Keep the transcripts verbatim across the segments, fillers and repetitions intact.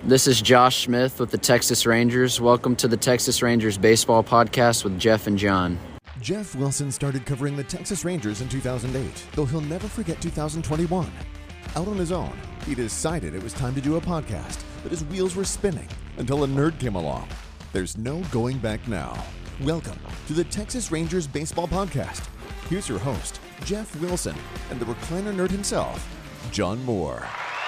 This is Josh Smith with the Texas Rangers. Welcome to the Texas Rangers Baseball Podcast with Jeff and John. Jeff Wilson started covering the Texas Rangers in two thousand eight, though he'll never forget two thousand twenty-one. Out on his own, he decided it was time to do a podcast, but his wheels were spinning until a nerd came along. There's no going back now. Welcome to the Texas Rangers Baseball Podcast. Here's your host, Jeff Wilson, and the recliner nerd himself, John Moore.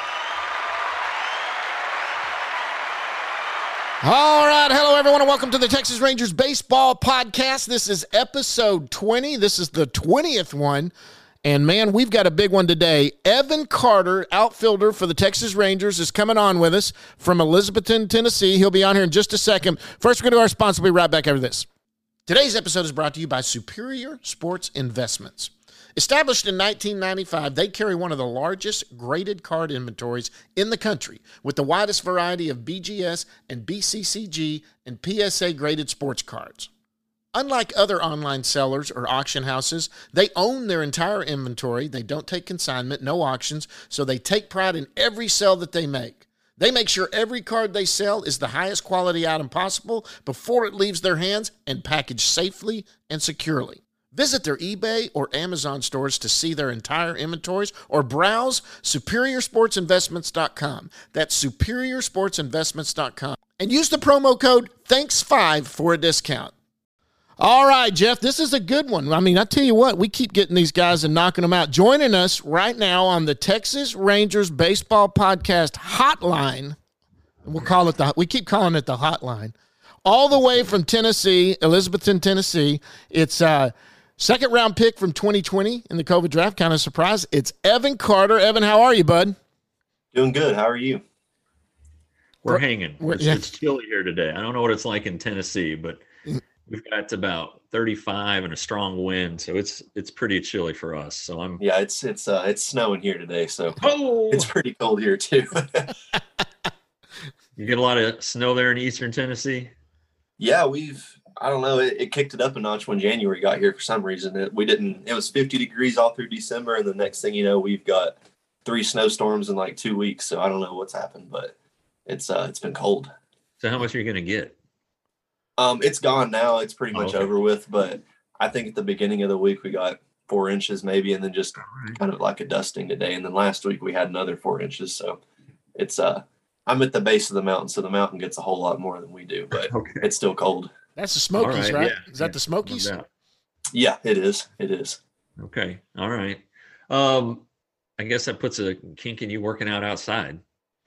All right. Hello, everyone, and welcome to the Texas Rangers Baseball Podcast. This is episode twenty. This is the twentieth one. And, man, we've got a big one today. Evan Carter, outfielder for the Texas Rangers, is coming on with us from Elizabethton, Tennessee. He'll be on here in just a second. First, we're going to do our sponsor. We'll be right back after this. Today's episode is brought to you by Superior Sports Investments. Established in nineteen ninety-five, they carry one of the largest graded card inventories in the country with the widest variety of B G S and B C C G and P S A graded sports cards. Unlike other online sellers or auction houses, they own their entire inventory. They don't take consignment, no auctions, so they take pride in every sale that they make. They make sure every card they sell is the highest quality item possible before it leaves their hands and packaged safely and securely. Visit their eBay or Amazon stores to see their entire inventories or browse superior sports investments dot com. That's superior sports investments dot com. And use the promo code thanks five for a discount. All right, Jeff, this is a good one. I mean, I tell you what, we keep getting these guys and knocking them out. Joining us right now on the Texas Rangers Baseball Podcast hotline, we'll call it the, we keep calling it the hotline, all the way from Tennessee, Elizabethton, Tennessee. It's uh second round pick from twenty twenty in the COVID draft. Kind of surprised. It's Evan Carter. Evan, how are you, bud? Doing good. How are you? We're hanging. We're, it's, yeah. it's chilly here today. I don't know what it's like in Tennessee, but we've got about thirty-five and a strong wind, so it's it's pretty chilly for us. So I'm yeah, it's it's uh it's snowing here today, so oh! It's pretty cold here too. You get a lot of snow there in eastern Tennessee? Yeah, we've I don't know, it, it kicked it up a notch when January got here for some reason. It, we didn't it was fifty degrees all through December, and the next thing you know, we've got three snowstorms in like two weeks. So I don't know what's happened, but it's uh it's been cold. So how much are you gonna get? Um, it's gone now. It's pretty much oh, okay. over with, but I think at the beginning of the week we got four inches maybe, and then just right. kind of like a dusting today. And then last week we had another four inches. So it's uh, I'm at the base of the mountain, so the mountain gets a whole lot more than we do, but okay. It's still cold. That's the Smokies, right, right? yeah, Is that yeah, the Smokies? no doubt. Yeah, it is. It is. Okay, all right. Um, I guess that puts a kink in you working out outside.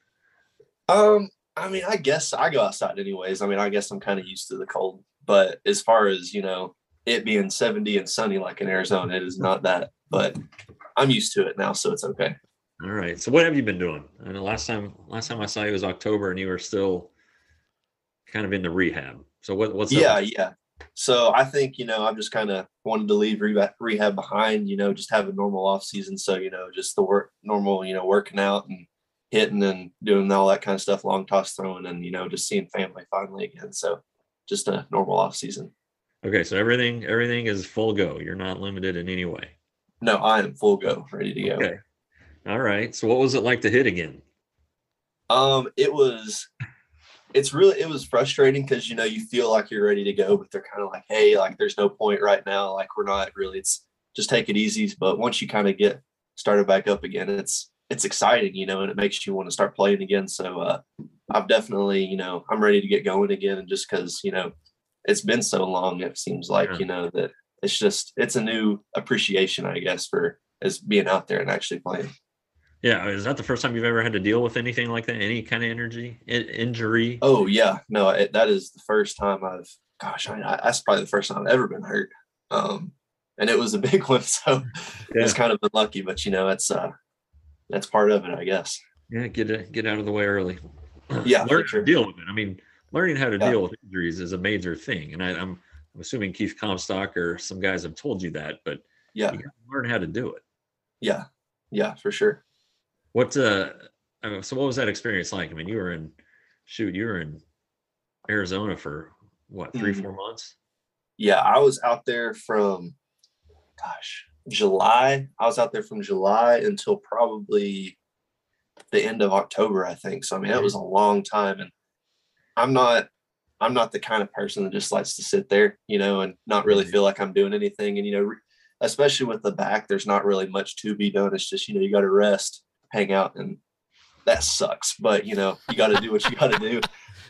Um, I mean, I guess I go outside anyways. I mean, I guess I'm kind of used to the cold. But as far as, you know, it being seventy and sunny like in Arizona, it is not that. But I'm used to it now, so it's okay. All right. So what have you been doing? I know last time last time I saw you was October, and you were still kind of in the rehab. So what what's yeah, up? yeah. So I think, you know, I've just kind of wanted to leave rehab, rehab behind, you know, just have a normal off season. So, you know, just the work normal, you know, working out and hitting and doing all that kind of stuff, long toss throwing, and, you know, just seeing family finally again. So just a normal off season. Okay, so everything everything is full go. You're not limited in any way. No, I am full go, ready to go. Okay. All right. So what was it like to hit again? Um, it was it's really it was frustrating because, you know, you feel like you're ready to go, but they're kind of like, hey, like there's no point right now. Like we're not really, it's just take it easy. But once you kind of get started back up again, it's it's exciting, you know, and it makes you want to start playing again. So uh I've definitely, you know, I'm ready to get going again. And just because, you know, it's been so long, it seems like, yeah. you know, that it's just, it's a new appreciation, I guess, for as being out there and actually playing. Yeah. Is that the first time you've ever had to deal with anything like that? Any kind of energy, in- injury? Oh, yeah. No, it, that is the first time I've, gosh, I mean, I, that's probably the first time I've ever been hurt. Um, and it was a big one. So Yeah. it's kind of been lucky, but, you know, it's, uh, that's part of it, I guess. Yeah. Get it, get out of the way early. Yeah. Learn for sure. to deal with it. I mean, learning how to Yeah. deal with injuries is a major thing. And I, I'm, I'm assuming Keith Comstock or some guys have told you that, but Yeah. you got to learn how to do it. Yeah. Yeah, for sure. What, uh, I mean, so what was that experience like? I mean, you were in, shoot, you were in Arizona for what, three, Mhm. four months? Yeah, I was out there from, gosh, July. I was out there from July until probably the end of October, I think. So I mean, that was a long time, and I'm not I'm not the kind of person that just likes to sit there, you know, and not really feel like I'm doing anything. And you know, especially with the back, there's not really much to be done. It's just, you know, you got to rest, hang out, and that sucks. But you know, you got to do what you got to do.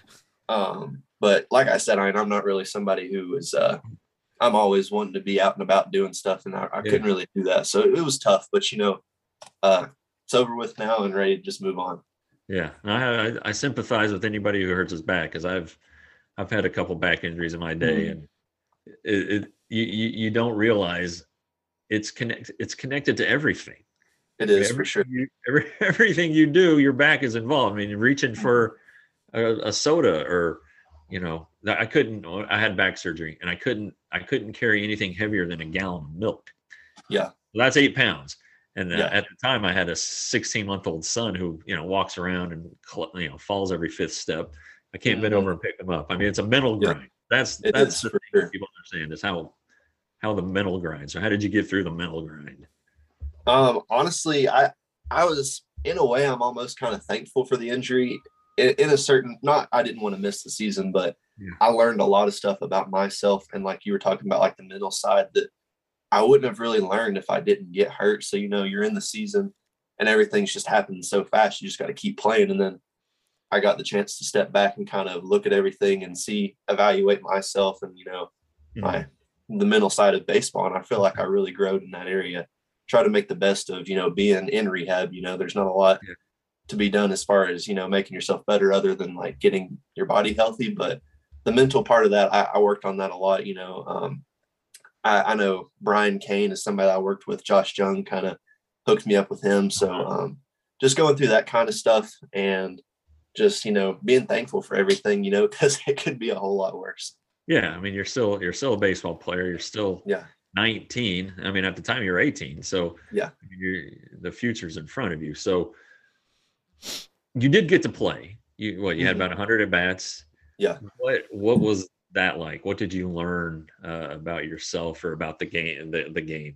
Um, but like I said, I mean, I'm not really somebody who is. Uh, I'm always wanting to be out and about doing stuff, and I, I yeah. couldn't really do that. So it, it was tough. But you know, uh, it's over with now and ready to just move on. Yeah, I, I, I sympathize with anybody who hurts his back, because I've I've had a couple back injuries in my day, mm-hmm. and it, it you, you you don't realize it's connect it's connected to everything. It is, every, for sure. You, every, everything you do, your back is involved. I mean, reaching for a, a soda, or you know, I couldn't. I had back surgery, and I couldn't. I couldn't carry anything heavier than a gallon of milk. Yeah, that's eight pounds. And uh, yeah. at the time, I had a sixteen-month-old son who, you know, walks around and, you know, falls every fifth step. I can't mm-hmm. bend over and pick him up. I mean, it's a mental yeah. grind. That's it that's the for thing sure. people understand is how how the mental grind. So how did you get through the mental grind? Um, honestly, I I was in a way I'm almost kind of thankful for the injury. In, in a certain, not I didn't want to miss the season, but yeah. I learned a lot of stuff about myself, and like you were talking about, like the mental side that I wouldn't have really learned if I didn't get hurt. So, you know, you're in the season and everything's just happening so fast. You just got to keep playing. And then I got the chance to step back and kind of look at everything and see, evaluate myself and, you know, mm-hmm. my, the mental side of baseball. And I feel like I really growed in that area. Try to make the best of, you know, being in rehab. You know, there's not a lot yeah. to be done as far as, you know, making yourself better other than like getting your body healthy. But the mental part of that, I, I worked on that a lot, you know. um, I, I know Brian Kane is somebody I worked with. Josh Jung kind of hooked me up with him. So um, just going through that kind of stuff and just, you know, being thankful for everything, you know, because it could be a whole lot worse. Yeah. I mean, you're still, you're still a baseball player. You're still yeah. nineteen. I mean, at the time you're eighteen. So yeah, you're, the future's in front of you. So you did get to play. You, what, you mm-hmm. had about a hundred at bats. Yeah. What, what was that like? What did you learn uh, about yourself or about the game, the, the game?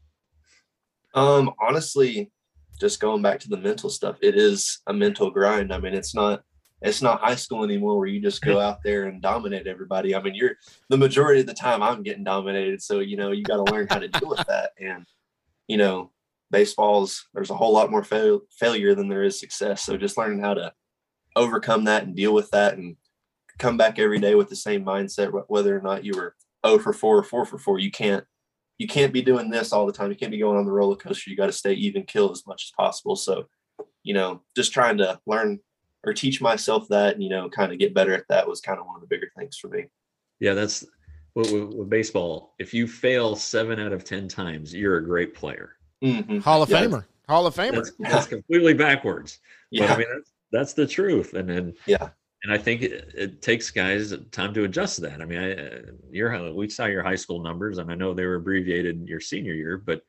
Um, honestly, just going back to the mental stuff, it is a mental grind. I mean, it's not, it's not high school anymore where you just go out there and dominate everybody. I mean, you're the majority of the time I'm getting dominated. So, you know, you got to learn how to deal with that. And, you know, baseball's, there's a whole lot more fail, failure than there is success. So just learning how to overcome that and deal with that and come back every day with the same mindset, whether or not you were oh for four or four for four. You can't, you can't be doing this all the time. You can't be going on the roller coaster. You got to stay even kill as much as possible. So, you know, just trying to learn or teach myself that, and, you know, kind of get better at that was kind of one of the bigger things for me. Yeah. That's with, with, with baseball. If you fail seven out of ten times, you're a great player. Mm-hmm. Hall of yeah. Famer, Hall of Famer. That's, that's completely backwards. Yeah. But, I mean, that's, that's the truth. And then, yeah. And I think it, it takes guys time to adjust to that. I mean, I, your we saw your high school numbers, and I know they were abbreviated your senior year, but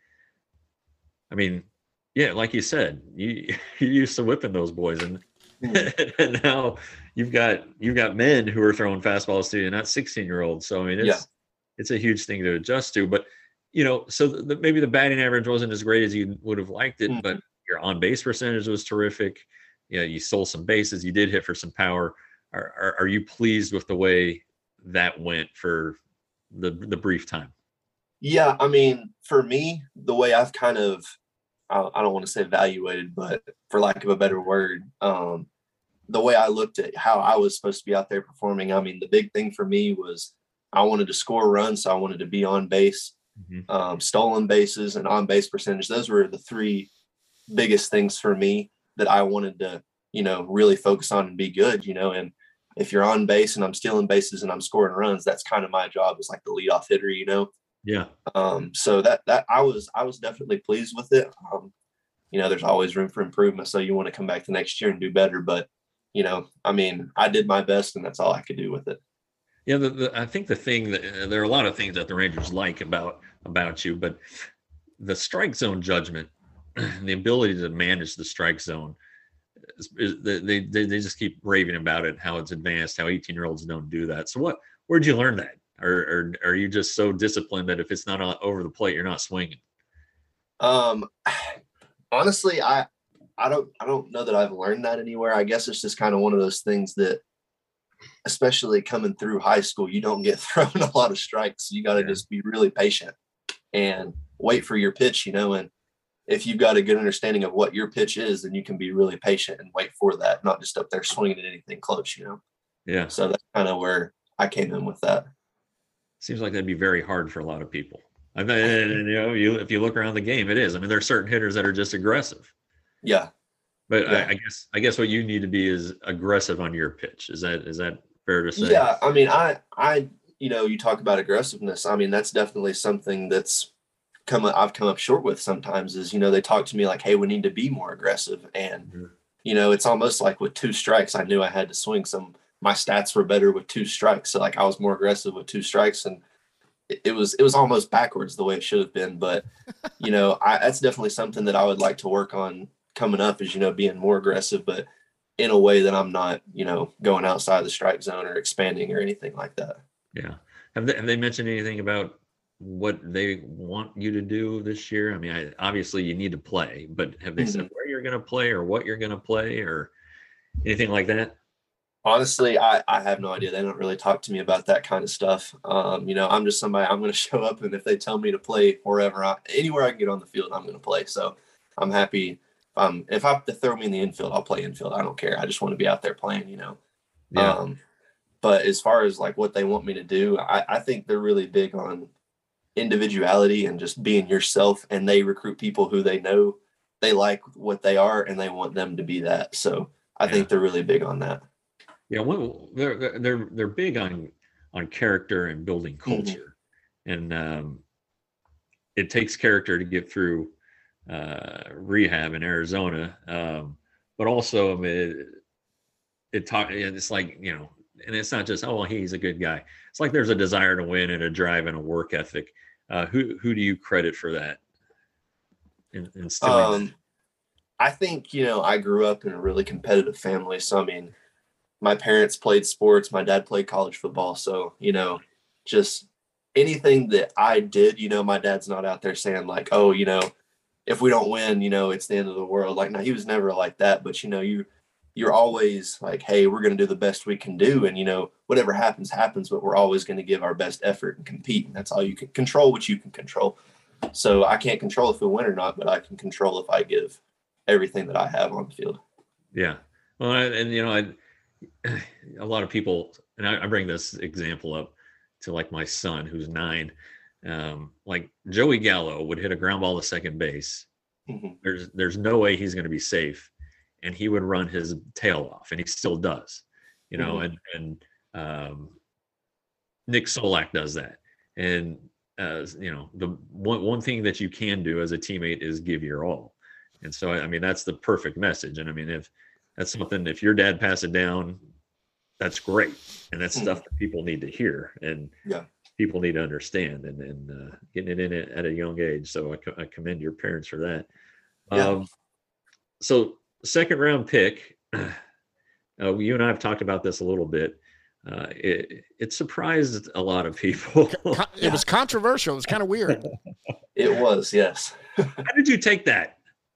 I mean, yeah, like you said, you you used to whipping those boys, and mm. and now you've got you've got men who are throwing fastballs to you, not sixteen year olds. So I mean, it's yeah. it's a huge thing to adjust to. But you know, so the, the, maybe the batting average wasn't as great as you would have liked it, mm. but your on base percentage was terrific. You know, you stole some bases, you did hit for some power. Are, are, are you pleased with the way that went for the the brief time? Yeah, I mean, for me, the way I've kind of, I don't want to say evaluated, but for lack of a better word, um, the way I looked at how I was supposed to be out there performing, I mean, the big thing for me was I wanted to score runs, so I wanted to be on base, mm-hmm. um, stolen bases, and on base percentage. Those were the three biggest things for me that I wanted to, you know, really focus on and be good, you know. And if you're on base and I'm stealing bases and I'm scoring runs, that's kind of my job as like the leadoff hitter, you know? Yeah. Um, so that, that I was, I was definitely pleased with it. Um, you know, there's always room for improvement. So you want to come back the next year and do better, but you know, I mean, I did my best and that's all I could do with it. Yeah. The, the, I think the thing that uh, there are a lot of things that the Rangers like about, about you, but the strike zone judgment, the ability to manage the strike zone, they, they they just keep raving about it, how it's advanced, how eighteen year olds don't do that. So what, where'd you learn that? Or, or are you just so disciplined that if it's not over the plate, you're not swinging? Um, honestly, I, I don't I don't know that I've learned that anywhere. I guess it's just kind of one of those things that, especially coming through high school, you don't get thrown a lot of strikes. You got to yeah. just be really patient and wait for your pitch, you know, and if you've got a good understanding of what your pitch is, then you can be really patient and wait for that, not just up there swinging at anything close, you know? Yeah. So that's kind of where I came in with that. Seems like that'd be very hard for a lot of people. I mean, and, you know, you, if you look around the game, it is. I mean, there are certain hitters that are just aggressive. Yeah. But yeah. I, I guess, I guess what you need to be is aggressive on your pitch. Is that, is that fair to say? Yeah. I mean, I, I, you know, you talk about aggressiveness. I mean, that's definitely something that's come, I've come up short with sometimes is, you know, they talk to me like, hey, we need to be more aggressive. And, mm-hmm. you know, it's almost like with two strikes, I knew I had to swing some, my stats were better with two strikes. So like I was more aggressive with two strikes, and it, it was, it was almost backwards the way it should have been. But, you know, I, that's definitely something that I would like to work on coming up is, you know, being more aggressive, but in a way that I'm not, you know, going outside the strike zone or expanding or anything like that. Yeah. Have they, have they mentioned anything about what they want you to do this year? I mean, I, obviously you need to play, but have they mm-hmm. said where you're going to play or what you're going to play or anything like that? Honestly, I, I have no idea. They don't really talk to me about that kind of stuff. Um, you know, I'm just somebody, I'm going to show up, and if they tell me to play wherever, I, anywhere I can get on the field, I'm going to play. So I'm happy. Um, if I have to throw me in the infield, I'll play infield. I don't care. I just want to be out there playing, you know? Yeah. Um, but as far as like what they want me to do, I, I think they're really big on individuality and just being yourself. And they recruit people who they know they like what they are and they want them to be that. So I yeah. think they're really big on that. Yeah. Well, they're, they're, they're big on, on character and building culture. Mm-hmm. And um, it takes character to get through uh rehab in Arizona, um but also I mean it, it talk it's like, you know, and it's not just, oh well, he's a good guy. It's like there's a desire to win and a drive and a work ethic. Uh who who do you credit for that in, instilling um I think, you know, I grew up in a really competitive family. So I mean, my parents played sports, my dad played college football, so you know, just anything that I did, you know, my dad's not out there saying like, oh, you know, if we don't win, you know, it's the end of the world. Like, no, he was never like that. But, you know, you, you're always like, hey, we're going to do the best we can do. And, you know, whatever happens, happens, but we're always going to give our best effort and compete. And that's all you can control, what you can control. So I can't control if we win or not, but I can control if I give everything that I have on the field. Yeah. Well, and, you know, I, a lot of people, and I, I bring this example up to like my son, who's nine. Um, like Joey Gallo would hit a ground ball to second base. Mm-hmm. There's there's no way he's going to be safe, and he would run his tail off, and he still does, you know. Mm-hmm. And and um, Nick Solak does that, and uh, you know, the one one thing that you can do as a teammate is give your all, and so I mean that's the perfect message. And I mean if that's something, if your dad passed it down, that's great, and that's mm-hmm. stuff that people need to hear. And yeah. people need to understand, and, and uh, getting it in it at a young age. So I, co- I commend your parents for that. Yeah. Um, so second round pick, uh, you and I have talked about this a little bit. Uh, it, it surprised a lot of people. It was controversial. It was kind of weird. It was, yes. How did you take that?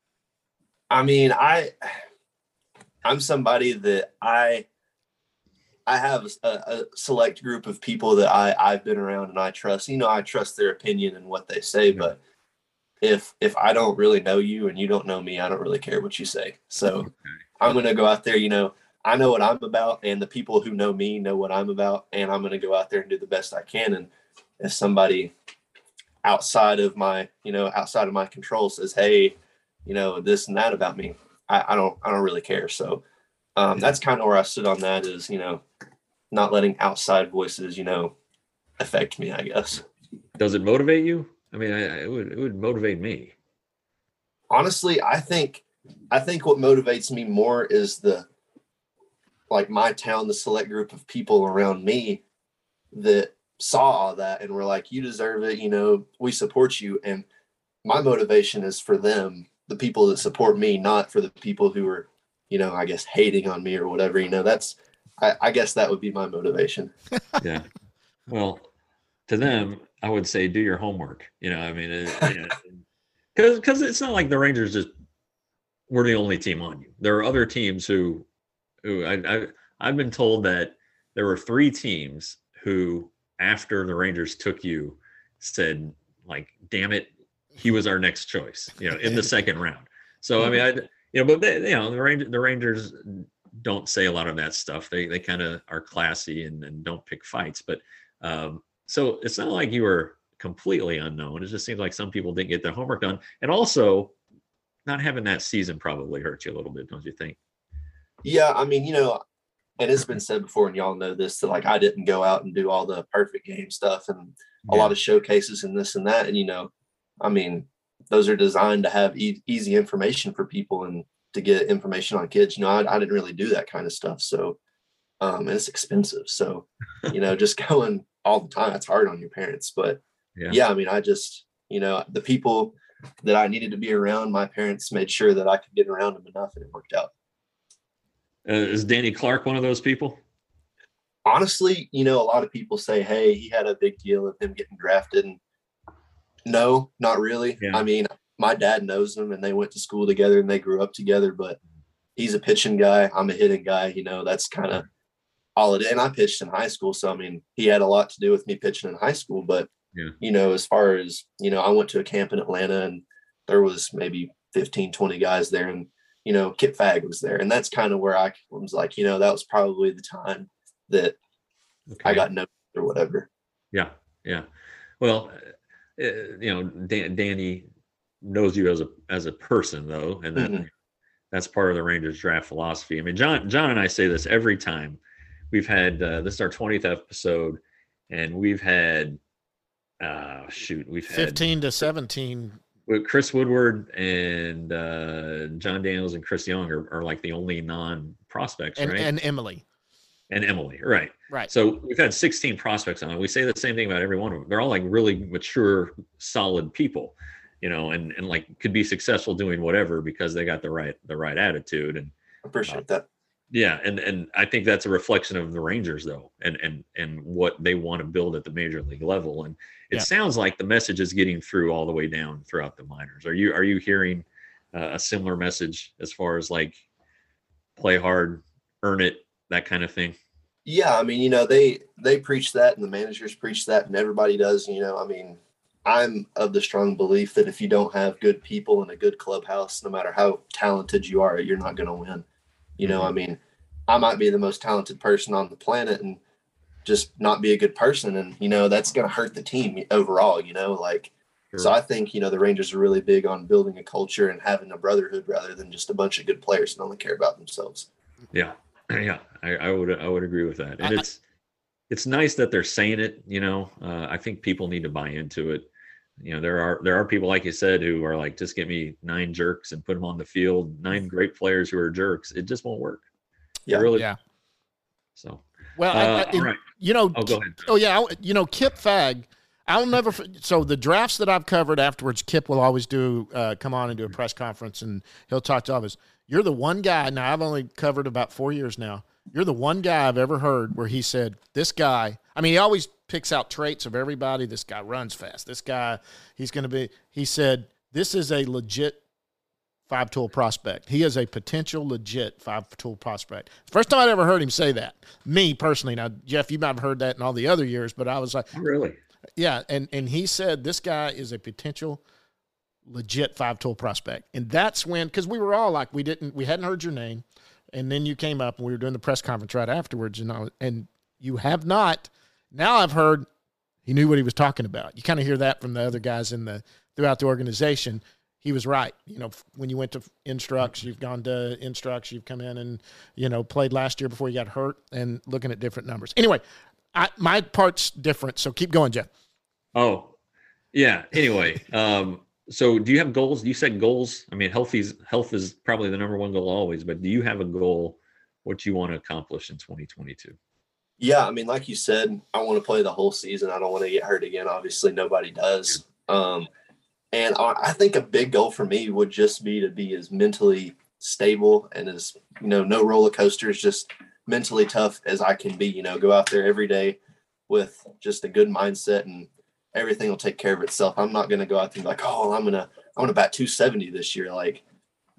I mean, I, I'm somebody that I, I have a, a select group of people that I, I've been around and I trust. You know, I trust their opinion and what they say, but if if I don't really know you and you don't know me, I don't really care what you say. So okay. I'm going to go out there, you know, I know what I'm about, and the people who know me know what I'm about, and I'm going to go out there and do the best I can. And if somebody outside of my, you know, outside of my control says, hey, you know, this and that about me, I, I don't, I don't really care. So um, that's kind of where I stood on that is, you know, not letting outside voices, you know, affect me, I guess. Does it motivate you? I mean, I, it would, it would motivate me. Honestly, I think, I think what motivates me more is the, like my town, the select group of people around me that saw all that and were like, you deserve it. You know, we support you. And my motivation is for them, the people that support me, not for the people who are, you know, I guess hating on me or whatever, you know, that's, I, I guess that would be my motivation. Yeah. Well, to them, I would say, do your homework. You know, I mean, it, you know, cause, cause it's not like the Rangers just we're the only team on you. There are other teams who, who I, I I've been told that there were three teams who, after the Rangers took you, said like, "Damn it, he was our next choice." You know, in the second round. So I mean, I you know, but they, you know, the Rangers, the Rangers don't say a lot of that stuff. They they kind of are classy and, and don't pick fights. But um, so it's not like you were completely unknown. It just seems like some people didn't get their homework done, and also not having that season probably hurt you a little bit, don't you think? Yeah, I mean, you know, and it's been said before, and y'all know this, that like I didn't go out and do all the perfect game stuff and a Yeah. lot of showcases and this and that. And, you know, I mean, those are designed to have e- easy information for people and to get information on kids. You know, I, I didn't really do that kind of stuff. So, um, and it's expensive. So, you know, just going all the time, it's hard on your parents. But Yeah. yeah, I mean, I just, you know, the people that I needed to be around, my parents made sure that I could get around them enough, and it worked out. Uh, is Danny Clark one of those people? Honestly, you know, a lot of people say, hey, he had a big deal of him getting drafted. And no, not really. Yeah. I mean, my dad knows him and they went to school together and they grew up together, but he's a pitching guy. I'm a hitting guy. You know, that's kind of all it is. And I pitched in high school. So, I mean, he had a lot to do with me pitching in high school. But, Yeah. you know, as far as, you know, I went to a camp in Atlanta and there was maybe fifteen, twenty guys there. And, you know, Kip Fagg was there. And that's kind of where I was like, you know, that was probably the time that Okay. I got noticed or whatever. Yeah, yeah. Well, uh, you know, Dan, Danny knows you as a as a person, though, and that Mhm. that's part of the Rangers draft philosophy. I mean, John, John and I say this every time. We've had uh, this is our twentieth episode, and we've had uh, shoot, we've had fifteen to seventeen. with Chris Woodward and uh, John Daniels and Chris Young are, are like the only non prospects, And, right? and Emily. And Emily, right? Right. So we've had sixteen prospects on it. We say the same thing about every one of them. They're all like really mature, solid people, you know, and and like could be successful doing whatever because they got the right the right attitude. And Appreciate that. yeah, and and I think that's a reflection of the Rangers, though, and and and what they want to build at the major league level. And it Yeah. sounds like the message is getting through all the way down throughout the minors. Are you are you hearing uh, a similar message as far as like play hard, earn it, that kind of thing? Yeah, I mean, you know, they they preach that and the managers preach that and everybody does, you know. I mean, I'm of the strong belief that if you don't have good people in a good clubhouse, no matter how talented you are, you're not going to win. You know, I mean, I might be the most talented person on the planet and just not be a good person. And, you know, that's going to hurt the team overall, you know, like, Sure. so I think, you know, the Rangers are really big on building a culture and having a brotherhood rather than just a bunch of good players that only care about themselves. Yeah, yeah, I, I would I would agree with that, and I- it's it's nice that they're saying it. You know, uh, I think people need to buy into it. You know, there are there are people like you said who are like, just get me nine jerks and put them on the field, nine great players who are jerks. It just won't work. It Yeah. really. Yeah. So, Well, I, uh, I, all right. you know, Oh, go ahead. Oh yeah, I- you know Kip Fagg. I'll never. f- So the drafts that I've covered afterwards, Kip will always do uh, come on and do a press conference, and he'll talk to all of us. You're the one guy. Now I've only covered about four years now. You're the one guy I've ever heard where he said, "This guy." I mean, he always picks out traits of everybody. This guy runs fast. This guy, he's going to be. He said, "This is a legit five tool prospect. He is a potential legit five tool prospect." First time I'd ever heard him say that. Me personally. Now, Jeff, you might have heard that in all the other years, but I was like, Really? yeah. And, and he said, this guy is a potential legit five tool prospect. And that's when, cause we were all like, we didn't, we hadn't heard your name. And then you came up and we were doing the press conference right afterwards. And I, and you have not, now I've heard he knew what he was talking about. You kind of hear that from the other guys in the, throughout the organization. He was right. You know, when you went to Instructs, you've gone to Instructs, you've come in and, you know, played last year before you got hurt and looking at different numbers. Anyway, I, my part's different. So keep going, Jeff. Oh, yeah. Anyway, um, so do you have goals? You said goals. I mean, health is health is probably the number one goal always. But do you have a goal? What you want to accomplish in twenty twenty-two? Yeah, I mean, like you said, I want to play the whole season. I don't want to get hurt again. Obviously, nobody does. Um, and I, I think a big goal for me would just be to be as mentally stable and as, you know, no roller coasters, just mentally tough as I can be. You know, go out there every day with just a good mindset and everything will take care of itself. I'm not going to go out there and be like, oh, I'm going to, I'm going to bat two seventy this year. Like,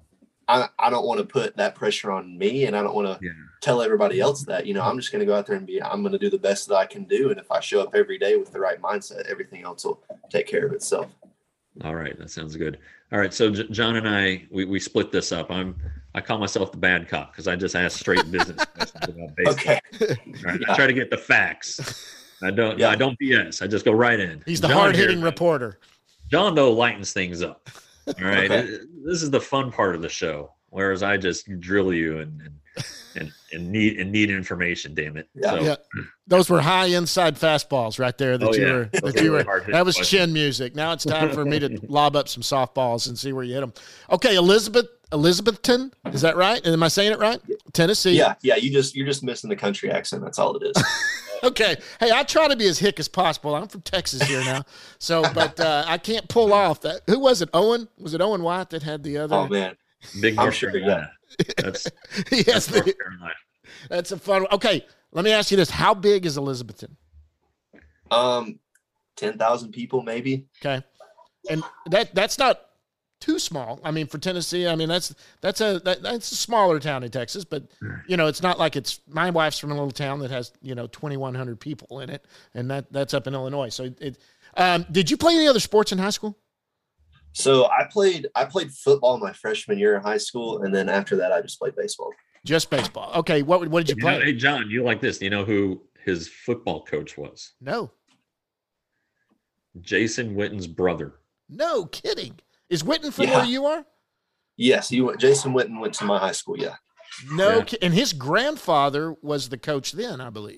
I, I don't want to put that pressure on me, and I don't want to Yeah. tell everybody else that, you know, I'm just going to go out there and be, I'm going to do the best that I can do. And if I show up every day with the right mindset, everything else will take care of itself. All right. That sounds good. All right. So J- John and I, we, we split this up. I'm, I call myself the bad cop because I just ask straight business questions about baseball. Okay. All right. Yeah. I try to get the facts. I don't, Yeah. I don't B S. I just go right in. He's the John hard hitting here- reporter. John, though, lightens things up. All right. Okay. It- this is the fun part of the show, whereas I just drill you and and and, and need and need information. Damn it. Yeah. So, Yeah. Those were high inside fastballs right there that Oh, you yeah. were Those that are you really were hard-hitting that was questions. chin music. Now it's time for me to lob up some softballs and see where you hit them. Okay, Elizabeth Elizabethton, is that right? Am I saying it right? Tennessee. Yeah. Yeah. You just, you're just missing the country accent. That's all it is. Okay. Hey, I try to be as hick as possible. I'm from Texas here now. So, but uh, I can't pull off that. Who was it? Owen? Was it Owen White that had the other? Oh man. Big I'm North sure, Carolina. That's, yes. that's North the- Carolina. that's a fun one. Okay. Let me ask you this. How big is Elizabethton? Um, ten thousand people, maybe. Okay. And that that's not too small. I mean, for Tennessee, I mean, that's that's a that, that's a smaller town in Texas, but you know, it's not like it's my wife's from a little town that has, you know, twenty-one hundred people in it, and that that's up in Illinois. So it um did you play any other sports in high school? So I played, I played football my freshman year in high school. And then after that, I just played baseball. Just baseball. Okay, what what did you You know, play? hey, John, you like this? You know who his football coach was? No. Jason Witten's brother. No kidding. Is Witten from Yeah. where you are? Yes. He went, Jason Witten went to my high school. Yeah. No, Yeah. ki- and his grandfather was the coach then, I believe.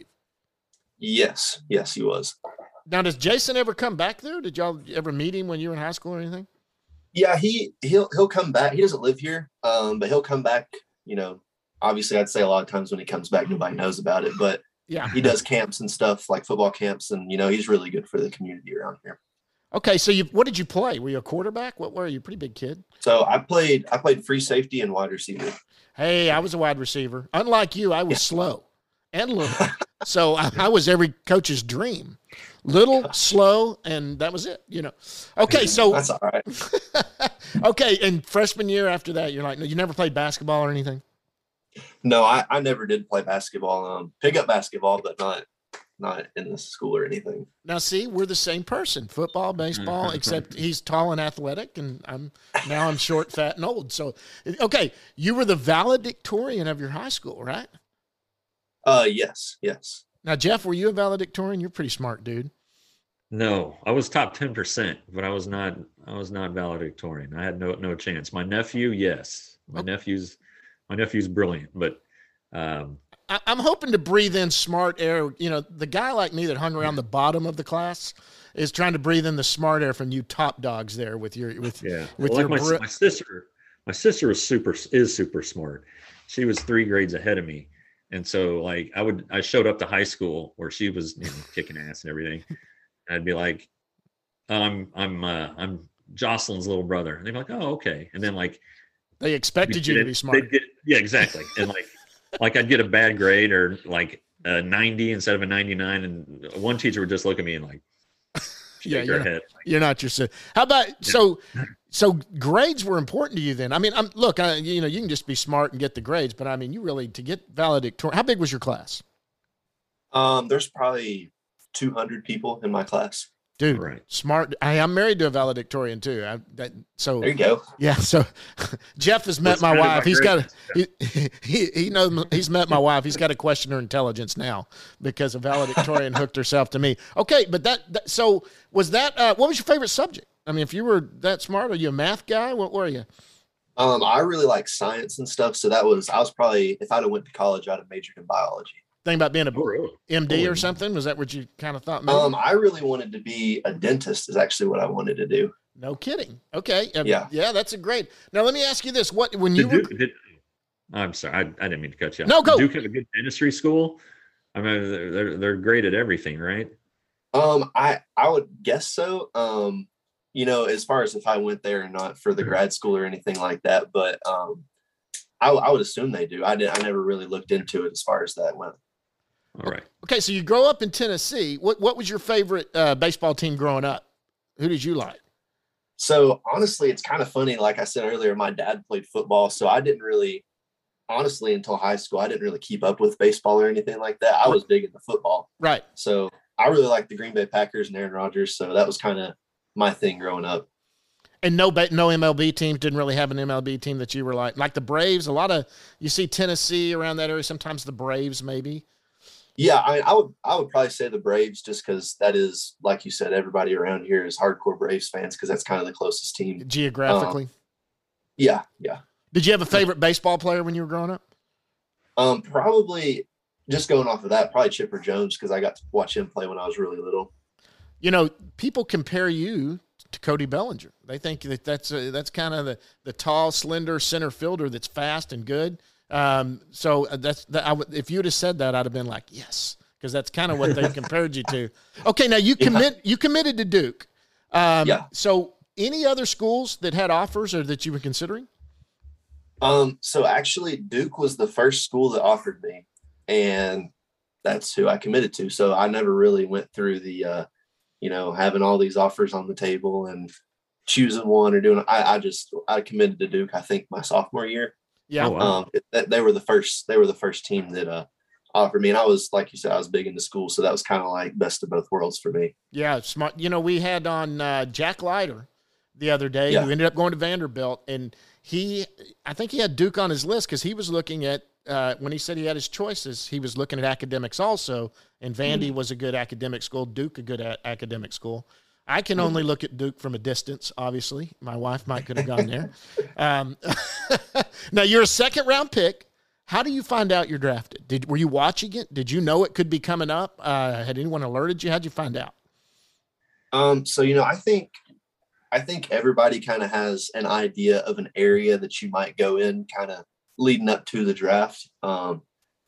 Yes. Yes, he was. Now, does Jason ever come back there? Did y'all ever meet him when you were in high school or anything? Yeah. He, he'll, he'll come back. He doesn't live here. Um, but he'll come back, you know, obviously I'd say a lot of times when he comes back, nobody knows about it, but Yeah. he does camps and stuff like football camps. And, you know, he's really good for the community around here. Okay, so you what did you play? Were you a quarterback? What were you? Pretty big kid. So I played, I played free safety and wide receiver. Hey, I was a wide receiver. Unlike you, I was slow and little. So I, I was every coach's dream. Little, slow, and that was it, you know. Okay, so That's all right. okay, and freshman year after that, you're like, no, you never played basketball or anything? No, I, I never did play basketball. Um, pick up basketball, but not not in the school or anything. Now, see, we're the same person. Football, baseball, except he's tall and athletic, and I'm now I'm short, fat, and old. So, okay, you were the valedictorian of your high school, right? Uh, yes, yes. Now, Jeff, were you a valedictorian? You're a pretty smart, dude. No, I was top ten percent, but I was not. I was not valedictorian. I had no no chance. My nephew, yes, my Okay. nephew's my nephew's brilliant, but um, I, I'm hoping to breathe in smart air. You know, the guy like me that hung around the bottom of the class is trying to breathe in the smart air from you top dogs there with your with yeah. with Well, your like my, bri- my sister, my sister was super is super smart. She was three grades ahead of me, and so like I would I showed up to high school where she was, you know, kicking ass and everything. And I'd be like, I'm I'm uh, I'm Jocelyn's little brother, and they'd be like, oh, okay, and then like they expected you to be smart. they'd get, yeah, exactly, and like like I'd get a bad grade or like a ninety instead of a ninety-nine, and one teacher would just look at me and like shake Yeah, her you're not- head. You're not your si- How about so? So grades were important to you then. I mean, I'm look. I, you know, you can just be smart and get the grades, but I mean, you really to get valedictorian. How big was your class, Um, there's probably two hundred people in my class. dude? Right. Smart. I, I'm married to a valedictorian too. I, that, so There you go. yeah. So Jeff has met Let's my find out wife. about He's got grades. he, he he knows he's met my wife. He's got to question her intelligence now because a valedictorian hooked herself to me. Okay, but that, that so was that. Uh, what was your favorite subject? I mean, if you were that smart, are you a math guy? What were you? Um, I really like science and stuff. So that was, I was probably, if I'd have went to college, I'd have majored in biology. Think about being a Oh, really? M D or Holy something? Was that what you kind of thought? Maybe? Um, I really wanted to be a dentist is actually what I wanted to do. No kidding. Okay. Uh, Yeah. Yeah, that's a great. Now let me ask you this: What when you Did were? Duke, did, I'm sorry, I, I didn't mean to cut you off. No, go. Duke have a good dentistry school. I mean, they're they're, they're great at everything, right? Um, I, I would guess so. Um, you know, as far as if I went there or not for the grad school or anything like that, but, um, I, I would assume they do. I did. I never really looked into it as far as that went. All right. Okay, so you grow up in Tennessee. What what was your favorite uh, baseball team growing up? Who did you like? So honestly, it's kind of funny. Like I said earlier, my dad played football, so I didn't really, honestly, until high school, I didn't really keep up with baseball or anything like that. I was big into football. Right. So I really liked the Green Bay Packers and Aaron Rodgers. So that was kind of my thing growing up. And no, no M L B teams didn't really have an M L B team that you were like, like the Braves. A lot of you see Tennessee around that area. Sometimes the Braves, maybe. Yeah, I, I would I would probably say the Braves, just because that is, like you said, everybody around here is hardcore Braves fans because that's kind of the closest team geographically. Um, yeah, yeah. Did you have a favorite baseball player when you were growing up? Um, probably just going off of that, probably Chipper Jones, because I got to watch him play when I was really little. You know, people compare you to Cody Bellinger. They think that that's a, that's kind of the the tall, slender center fielder that's fast and good. Um, so that's that. I would, if you'd have said that, I'd have been like, yes, because that's kind of what they compared you to. Okay, now you commit yeah. you committed to Duke. Um, yeah. So any other schools that had offers or that you were considering? Um, so actually Duke was the first school that offered me, and that's who I committed to. So I never really went through the, uh, you know, having all these offers on the table and choosing one or doing, I, I just, I committed to Duke, I think my sophomore year. Yeah. Oh, wow. Um, it, they were the first, they were the first team that, uh, offered me. And I was, like you said, I was big into school. So that was kind of like best of both worlds for me. Yeah. Smart. You know, we had on, uh, Jack Leiter the other day, yeah. who ended up going to Vanderbilt, and he, I think he had Duke on his list because he was looking at, uh, when he said he had his choices, he was looking at academics also, and Vandy mm. was a good academic school, Duke a good a- academic school. I can only look at Duke from a distance, obviously. My wife might could have gone there. Um, now, you're a second-round pick. How do you find out you're drafted? Did Were you watching it? Did you know it could be coming up? Uh, had anyone alerted you? How'd you find out? Um, so, you know, I think I think everybody kind of has an idea of an area that you might go in kind of leading up to the draft. Um,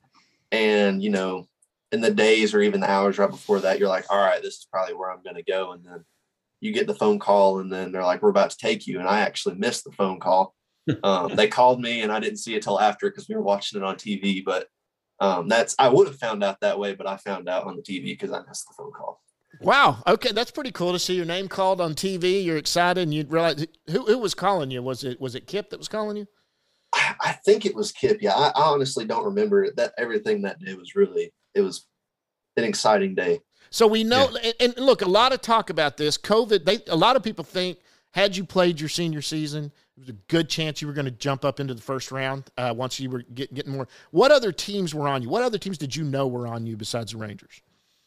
and, you know, in the days or even the hours right before that, you're like, all right, this is probably where I'm going to go. And then you get the phone call and then they're like, we're about to take you. And I actually missed the phone call. Um, they called me and I didn't see it till after because we were watching it on T V. But um, that's, I would have found out that way, but I found out on the T V because I missed the phone call. Wow. Okay. That's pretty cool to see your name called on T V. You're excited and you realize who, who was calling you? Was it, was it Kip that was calling you? I, I think it was Kip. Yeah. I, I honestly don't remember it. That everything that day was really, it was an exciting day. So we know, yeah. and, and look, a lot of talk about this COVID. They, a lot of people think had you played your senior season, it was a good chance you were going to jump up into the first round uh, once you were get, getting more. What other teams were on you? What other teams did you know were on you besides the Rangers?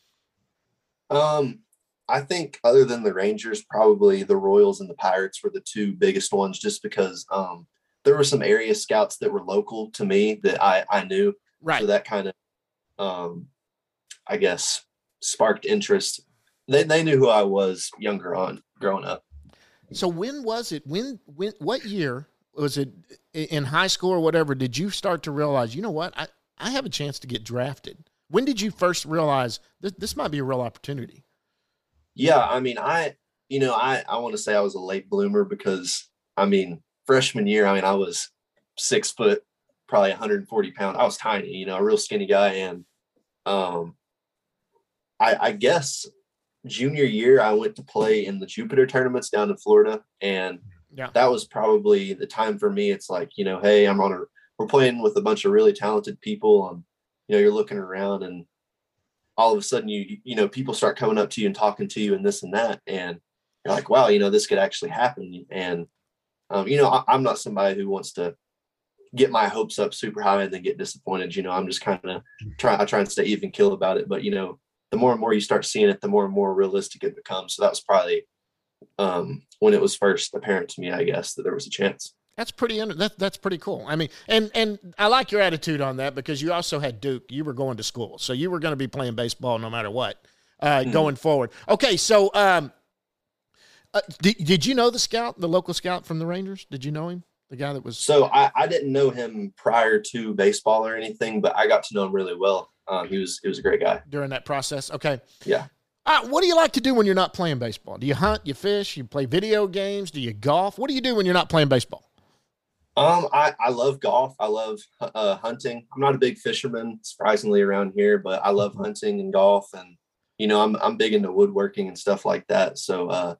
Um, I think other than the Rangers, probably the Royals and the Pirates were the two biggest ones, just because um, there were some area scouts that were local to me that I, I knew. Right. So that kind of, um, I guess, sparked interest. They they knew who I was younger on growing up. So when was it? When when what year was it in high school or whatever? Did you start to realize, you know what, I, I have a chance to get drafted? When did you first realize this, this might be a real opportunity? Yeah, I mean, I, you know, I, I want to say I was a late bloomer because, I mean, freshman year, I mean, I was six foot, probably one hundred forty pounds. I was tiny, you know, a real skinny guy. And um, I, I guess junior year, I went to play in the Jupiter tournaments down in Florida. And yeah. that was probably the time for me. It's like, you know, hey, I'm on a, we're playing with a bunch of really talented people. And, you know, you're looking around and all of a sudden you, you know, people start coming up to you and talking to you and this and that. And you're like, wow, you know, this could actually happen. And, um, you know, I, I'm not somebody who wants to get my hopes up super high and then get disappointed. You know, I'm just kind of try, I try and stay even kill about it. But, you know, the more and more you start seeing it, the more and more realistic it becomes. So that was probably um, when it was first apparent to me, I guess, that there was a chance. That's pretty, that, that's pretty cool. I mean, and, and I like your attitude on that because you also had Duke. You were going to school, so you were going to be playing baseball no matter what uh, mm-hmm. going forward. Okay. So um, uh, did, did you know the scout, the local scout from the Rangers? Did you know him? The guy that was. So I, I didn't know him prior to baseball or anything, but I got to know him really well. Um, he was, he was a great guy during that process. Okay. Yeah. Uh, what do you like to do when you're not playing baseball? Do you hunt, you fish, you play video games? Do you golf? What do you do when you're not playing baseball? Um, I, I love golf. I love uh, hunting. I'm not a big fisherman, surprisingly, around here, but I love hunting and golf. And, you know, I'm I'm big into woodworking and stuff like that. So uh,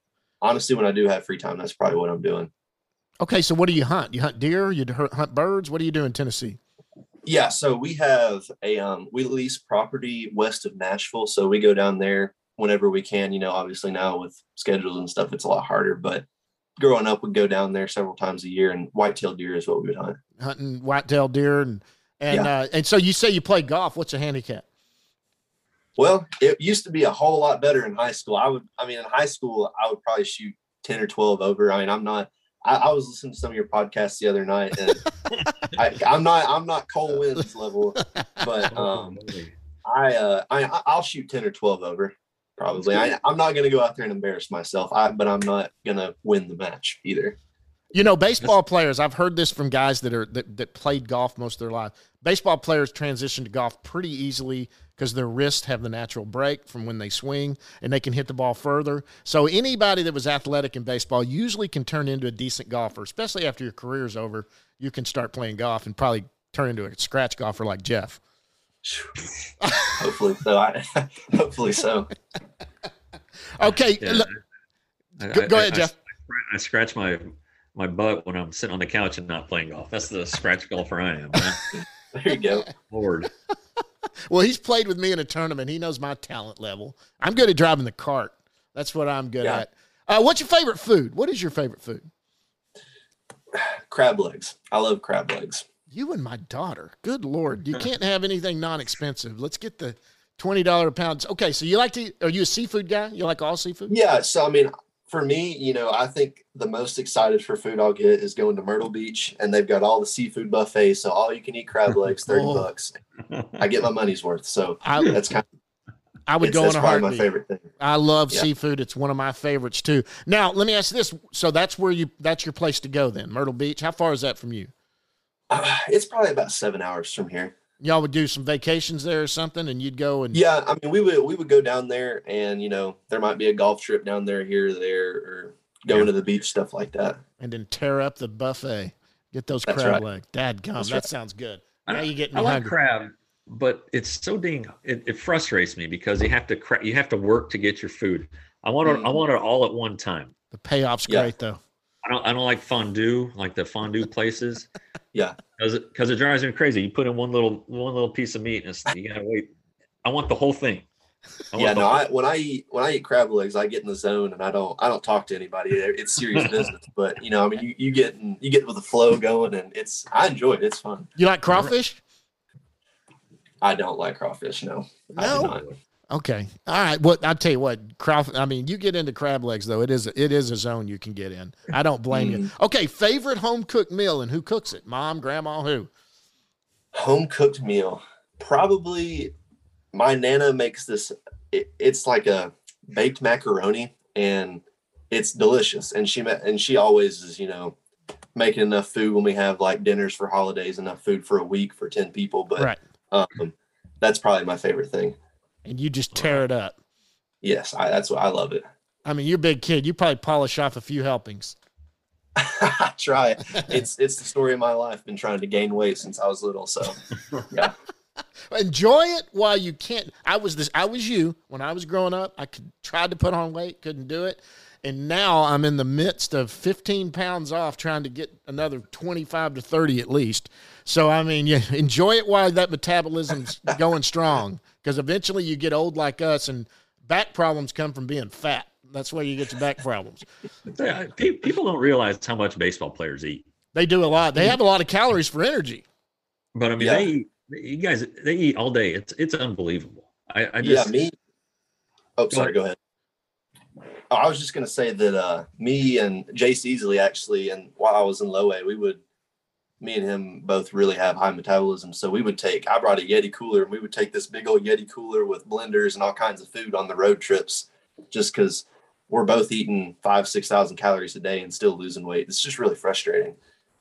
honestly, when I do have free time, that's probably what I'm doing. Okay, so what do you hunt? You hunt deer? You hunt birds? What do you do in Tennessee? Yeah, so we have a um, we lease property west of Nashville, so we go down there whenever we can. You know, obviously now with schedules and stuff, it's a lot harder. But growing up, we'd go down there several times a year, and whitetail deer is what we would hunt. Hunting whitetail deer, and and Yeah. uh, and so you say you play golf. What's your handicap? Well, it used to be a whole lot better in high school. I would, I mean, in high school, I would probably shoot ten or twelve over. I mean, I'm not. I, I was listening to some of your podcasts the other night, and I, I'm not. I'm not Cole Wins level, but um, I, uh, I, I'll shoot ten or twelve over. Probably. I, I'm not going to go out there and embarrass myself. I, but I'm not going to win the match either. You know, baseball players, I've heard this from guys that are that, that played golf most of their life. Baseball players transition to golf pretty easily because their wrists have the natural break from when they swing and they can hit the ball further. So anybody that was athletic in baseball usually can turn into a decent golfer, especially after your career's over. You can start playing golf and probably turn into a scratch golfer like Jeff. Hopefully so. I, hopefully so. Okay. Yeah. Look, I, go, go I, ahead, I, Jeff. I, I scratch my my butt when I'm sitting on the couch and not playing golf. That's the scratch golfer I am. Man. There you go. Lord. Well, he's played with me in a tournament. He knows my talent level. I'm good at driving the cart. That's what I'm good Yeah. at. Uh, what's your favorite food? What is your favorite food? Crab legs. I love crab legs. You and my daughter. Good Lord. You can't have anything non-expensive. Let's get the twenty dollars a pound. Okay, so you like to, are you a seafood guy? You like all seafood? Yeah. So, I mean, for me, you know, I think the most excited for food I'll get is going to Myrtle Beach, and they've got all the seafood buffets. So all you can eat crab legs, thirty Oh. bucks. I get my money's worth. So I, that's kind of, I would it's, go that's in a probably heartbeat. my favorite thing. I love Yeah. seafood. It's one of my favorites too. Now, let me ask you this. So that's where you, that's your place to go then, Myrtle Beach. How far is that from you? Uh, it's probably about seven hours from here. Y'all would do some vacations there or something, and you'd go and Yeah. I mean, we would, we would go down there, and, you know, there might be a golf trip down there, here or there, or going Yeah. to the beach, stuff like that. and then tear up the buffet. Get those That's crab right. legs. Dadgum, That's that right. sounds good. I- Now you get I me like hungry. crab, but it's so dang it, it frustrates me because you have to cra- you have to work to get your food. I want it I Mhm. want it all at one time. The payoff's Yeah. great though. I don't I don't like fondue, like the fondue places. Yeah. Because it, cause it drives me crazy. You put in one little one little piece of meat and it's, you gotta wait. I want the whole thing. I want Yeah, the no, whole- I, when I eat, when I eat crab legs, I get in the zone, and I don't, I don't talk to anybody. It's serious business, but you know, I mean, you, you get, in, you get with the flow going, and it's, I enjoy it. It's fun. You like crawfish? I don't like crawfish. No, I do No? not. Okay. All right. Well, I'll tell you what, crawfish, I mean, you get into crab legs though. It is, it is a zone you can get in. I don't blame you. Mm-hmm. Okay. Favorite home cooked meal and who cooks it? Mom, grandma, who? Home cooked meal. Probably my Nana makes this, it, it's like a baked macaroni, and it's delicious. And she, ma- and she always is, you know, making enough food when we have like dinners for holidays, enough food for a week for ten people. But Right. um, that's probably my favorite thing. And you just tear it up. Yes, I, that's what I love it. I mean, you're a big kid. You probably polish off a few helpings. I try. It's it's the story of my life. Been trying to gain weight since I was little. So yeah, Enjoy it while you can't. I was this. I was you when I was growing up. I could tried to put on weight, couldn't do it, and now I'm in the midst of fifteen pounds off, trying to get another twenty-five to thirty at least. So I mean, you enjoy it while that metabolism's going strong, because eventually you get old like us, and back problems come from being fat. That's where you get your back problems. Yeah, pe- people don't realize how much baseball players eat. They do a lot. They have a lot of calories for energy. But I mean, Yeah. they eat, you guys, they eat all day. It's it's unbelievable. I, I yeah. just Me. Oh, sorry. Go ahead. Oh, I was just gonna say that uh, me and Jace Easley actually, and while I was in low A, we would, me and him both really have high metabolism. So we would take. I brought a Yeti cooler, and we would take this big old Yeti cooler with blenders and all kinds of food on the road trips, just because we're both eating five, six thousand calories a day and still losing weight. It's just really frustrating.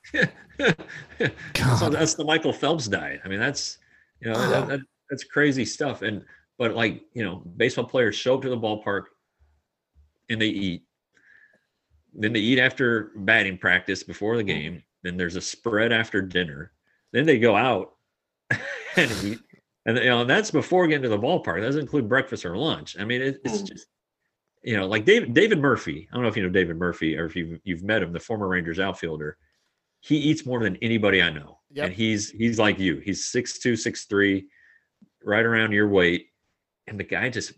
so that's the Michael Phelps diet. I mean, that's you know Oh. that, that, that's crazy stuff. And but like you know, baseball players show up to the ballpark and they eat. Then they eat after batting practice before the game. Then there's a spread after dinner. Then they go out and eat. And you know, and that's before getting to the ballpark. That doesn't include breakfast or lunch. I mean, it, it's Mhm. just you know, like David David Murphy. I don't know if you know David Murphy or if you've you've met him, the former Rangers outfielder. He eats more than anybody I know, yep. and he's he's like you. He's six two, six three, right around your weight, and the guy just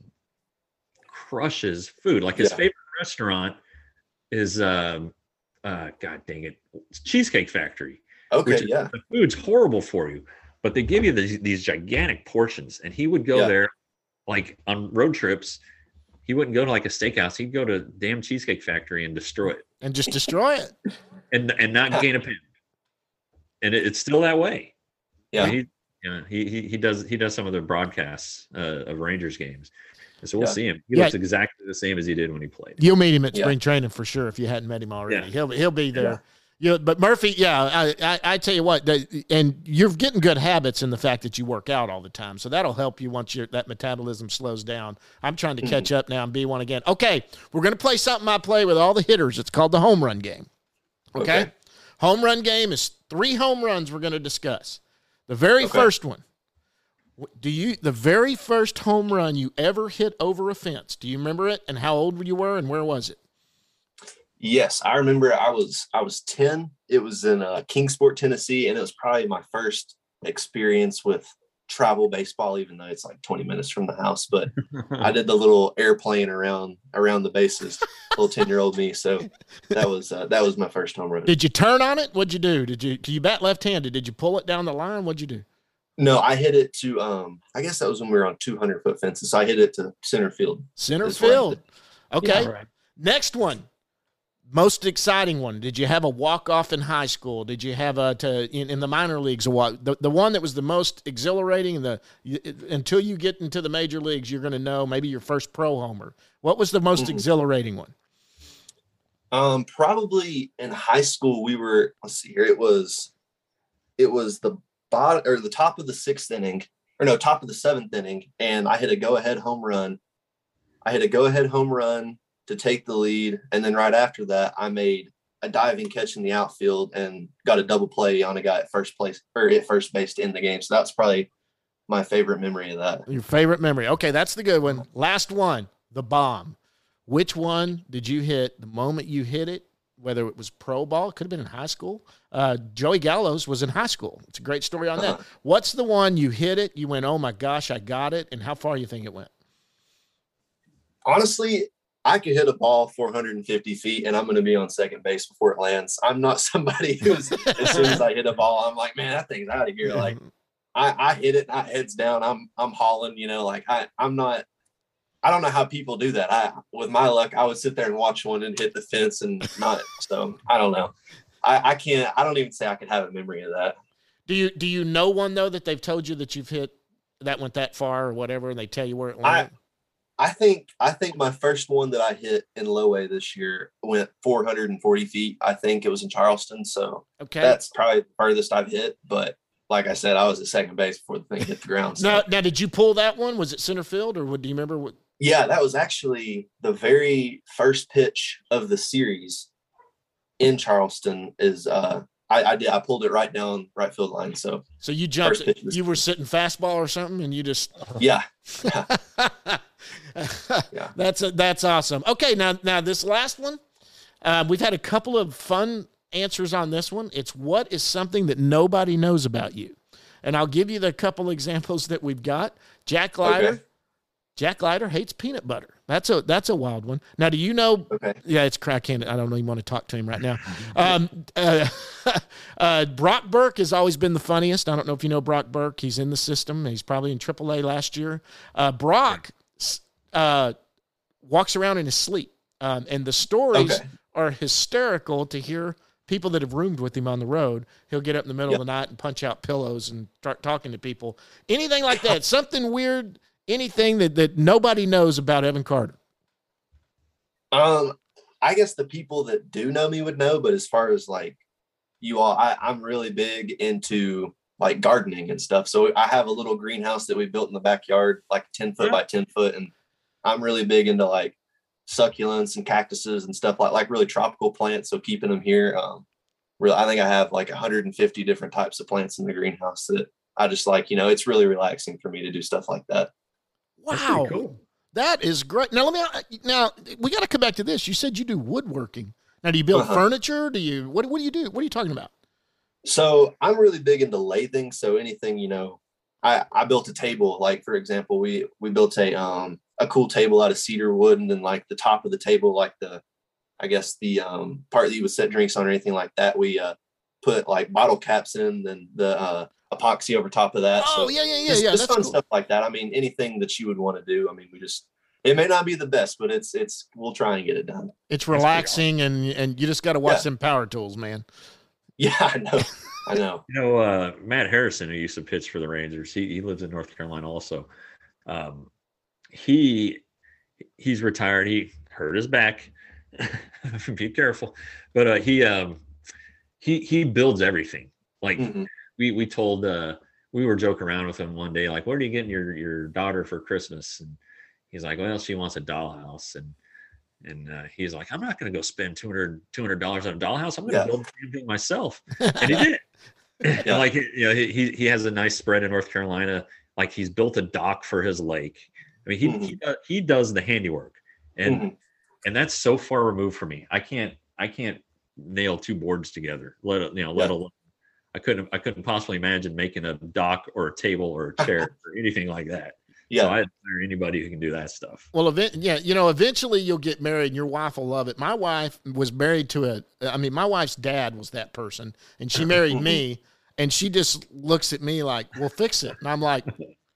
crushes food. Like his yeah. favorite restaurant is, um, uh, God dang it, Cheesecake Factory. Okay, is, yeah. The food's horrible for you, but they give you these, these gigantic portions, and he would go yeah. there, like on road trips. He wouldn't go to like a steakhouse. He'd go to damn Cheesecake Factory and destroy it. And just destroy it. and and not gain a pound. And it, it's still that way. Yeah. I mean, he, you know, he, he, he does, he does some of the broadcasts uh, of Rangers games. And so we'll yeah. see him. He yeah. looks exactly the same as he did when he played. You'll meet him at yeah. spring training for sure. If you hadn't met him already, yeah. he'll, he'll be there. Yeah. You know, but Murphy, yeah, I, I, I tell you what, the, and you're getting good habits in the fact that you work out all the time. So that'll help you once your that metabolism slows down. I'm trying to mm-hmm. catch up now and be one again. Okay, we're going to play something I play with all the hitters. It's called the home run game. Okay? okay. Home run game is three home runs we're going to discuss. The very okay. first one. Do you the very first home run you ever hit over a fence? Do you remember it and how old you were and where was it? Yes, I remember I was I was ten. It was in uh, Kingsport, Tennessee, and it was probably my first experience with travel baseball, even though it's like twenty minutes from the house. But I did the little airplane around around the bases, little ten-year-old me. So that was uh, that was my first home run. Did you turn on it? What'd you do? Did you do you bat left-handed? Did you pull it down the line? What'd you do? No, I hit it to um. I guess that was when we were on two hundred foot fences. So I hit it to center field. Center field. Okay. Yeah, right. Next one. Most exciting one. Did you have a walk-off in high school? Did you have a to in, in the minor leagues a walk? The, the one that was the most exhilarating. The you, until you get into the major leagues, you're going to know maybe your first pro homer. What was the most mm-hmm. exhilarating one? Um, probably in high school we were. Let's see here. It was, it was the bottom or the top of the sixth inning, or no, top of the seventh inning, and I hit a go-ahead home run. I hit a go-ahead home run to take the lead. And then right after that, I made a diving catch in the outfield and got a double play on a guy at first place or at first base to end the game. So that's probably my favorite memory of that. Your favorite memory. Okay. That's the good one. Last one, the bomb. Which one did you hit the moment you hit it? Whether it was pro ball, it could have been in high school. Uh, Joey Gallows was in high school. It's a great story on that. Uh-huh. What's the one you hit it? You went, oh my gosh, I got it. And how far you think it went? Honestly, I could hit a ball four hundred fifty feet and I'm going to be on second base before it lands. I'm not somebody who's, as soon as I hit a ball, I'm like, man, that thing's out of here. Like I, I hit it, I heads down, I'm, I'm hauling, you know, like I, I'm not, I don't know how people do that. I, with my luck, I would sit there and watch one and hit the fence and not, so I don't know. I, I can't, I don't even say I could have a memory of that. Do you, do you know one though, that they've told you that you've hit that went that far or whatever, and they tell you where it went? I, I think I think my first one that I hit in low A this year went four hundred forty feet. I think it was in Charleston. So okay. That's probably the furthest I've hit. But like I said, I was at second base before the thing hit the ground. So. Now, now, did you pull that one? Was it center field or what, do you remember what? Yeah, that was actually the very first pitch of the series in Charleston is uh, I, I did. I pulled it right down right field line. So, so you jumped, you were sitting fastball or something and you just, yeah. yeah. yeah. That's a, that's awesome. Okay. Now, now this last one, uh, we've had a couple of fun answers on this one. It's what is something that nobody knows about you? And I'll give you the couple examples that we've got. Jack Leiter. Okay. Jack Leiter hates peanut butter. That's a that's a wild one. Now, do you know? Okay. Yeah, it's cracking. I don't even want to talk to him right now. Um, uh, uh, Brock Burke has always been the funniest. I don't know if you know Brock Burke. He's in the system. He's probably in triple A last year. Uh, Brock uh, walks around in his sleep, um, and the stories okay. are hysterical to hear. People that have roomed with him on the road, he'll get up in the middle yep. of the night and punch out pillows and start talking to people. Anything like that. Something weird. Anything that, that nobody knows about Evan Carter? Um, I guess the people that do know me would know, but as far as like you all, I, I'm really big into like gardening and stuff. So I have a little greenhouse that we built in the backyard, like ten foot yeah. by ten foot. And I'm really big into like succulents and cactuses and stuff like, like really tropical plants. So keeping them here, um, really, I think I have like one hundred fifty different types of plants in the greenhouse that I just like, you know, it's really relaxing for me to do stuff like that. Wow. Cool. That is great. Now let me. Now we got to come back to this. You said you do woodworking. Now, do you build uh-huh. furniture? Do you what? What do you do? What are you talking about? So I'm really big into lathing. So anything, you know, I I built a table. Like for example, we we built a um a cool table out of cedar wood, and then like the top of the table, like the I guess the um part that you would set drinks on or anything like that, we uh put like bottle caps in, and the uh epoxy over top of that. Oh, so yeah, yeah, yeah, just, yeah. Just That's fun cool. stuff like that. I mean, anything that you would want to do. I mean, we just, it may not be the best, but it's, it's, we'll try and get it done. It's relaxing, awesome. and, and you just got to watch yeah. them power tools, man. Yeah, I know. I know. You know, uh, Matt Harrison, who used to pitch for the Rangers, he, he lives in North Carolina also. Um, he, he's retired. He hurt his back. Be careful. But uh, he, um, he, he builds everything. Like, mm-hmm. We we told uh, we were joking around with him one day, like, what are you getting your your daughter for Christmas? And he's like, well, she wants a dollhouse. And and uh, he's like, I'm not going to go spend two hundred dollars on a dollhouse. I'm going to yeah. build the same thing myself. And he did. yeah. And like, you know, he he has a nice spread in North Carolina. Like he's built a dock for his lake. I mean, he mm-hmm. he, uh, he does the handiwork, and mm-hmm. and that's so far removed from me. I can't I can't nail two boards together. Let you know, let yeah. alone. I couldn't I couldn't possibly imagine making a dock or a table or a chair or anything like that. Yeah. So I admire anybody who can do that stuff. Well, event, yeah, you know, eventually you'll get married and your wife will love it. My wife was married to a, I mean, my wife's dad was that person, and she married me, and she just looks at me like, well, fix it. And I'm like,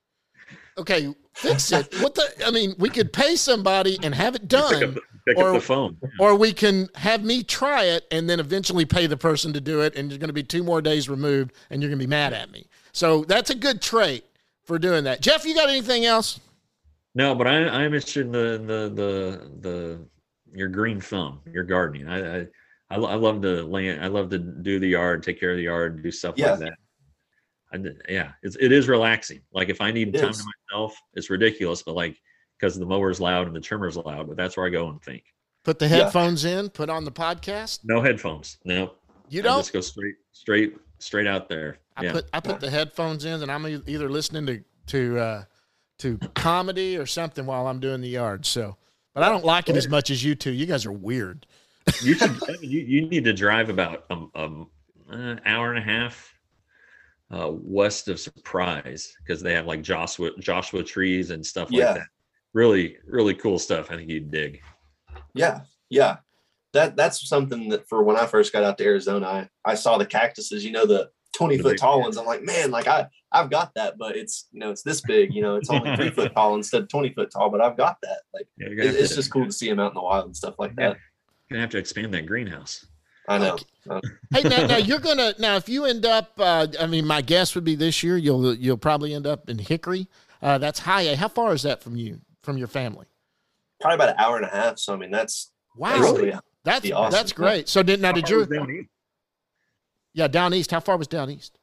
okay, fix it. What the, I mean, we could pay somebody and have it done. Pick up, pick or, up the phone. Or we can have me try it and then eventually pay the person to do it, and you're going to be two more days removed, and you're going to be mad at me. So that's a good trait for doing that. Jeff, you got anything else? No, but I, I'm interested in the, the, the, the, your green thumb, your gardening. I, I, I love to land. I love to do the yard, take care of the yard, do stuff yeah. like that. I, yeah, it's, it is relaxing. Like if I need it time is. to myself, it's ridiculous, but like, because the mower's loud and the trimmer's loud, but that's where I go and think. Put the headphones yeah. in, put on the podcast. No headphones. No. You don't? I just go straight, straight, straight out there. I yeah. put I put the headphones in, and I'm either listening to to uh, to comedy or something while I'm doing the yard. So, but I don't like it as much as you two. You guys are weird. You should. you, you need to drive about um, um an hour and a half uh, west of Surprise, because they have like Joshua Joshua trees and stuff like yeah. that. Really, really cool stuff. I think you'd dig. Yeah, yeah. That that's something that for when I first got out to Arizona, I, I saw the cactuses, you know, the twenty foot tall ones. I'm like, man, like I, I've got that, but it's, you know, it's this big, you know, it's only three foot tall instead of twenty foot tall, but I've got that. Like, yeah, it, it's just cool to see them out in the wild and stuff like yeah. that. You're gonna have to expand that greenhouse. I know. Okay. Hey, now, now you're gonna now if you end up, uh, I mean, my guess would be this year you'll you'll probably end up in Hickory. Uh, that's high A. How far is that from you, from your family? Probably about an hour and a half. So I mean, that's wow. Really, that's awesome. That's great. So did now did you? Yeah, down east. How far was down east?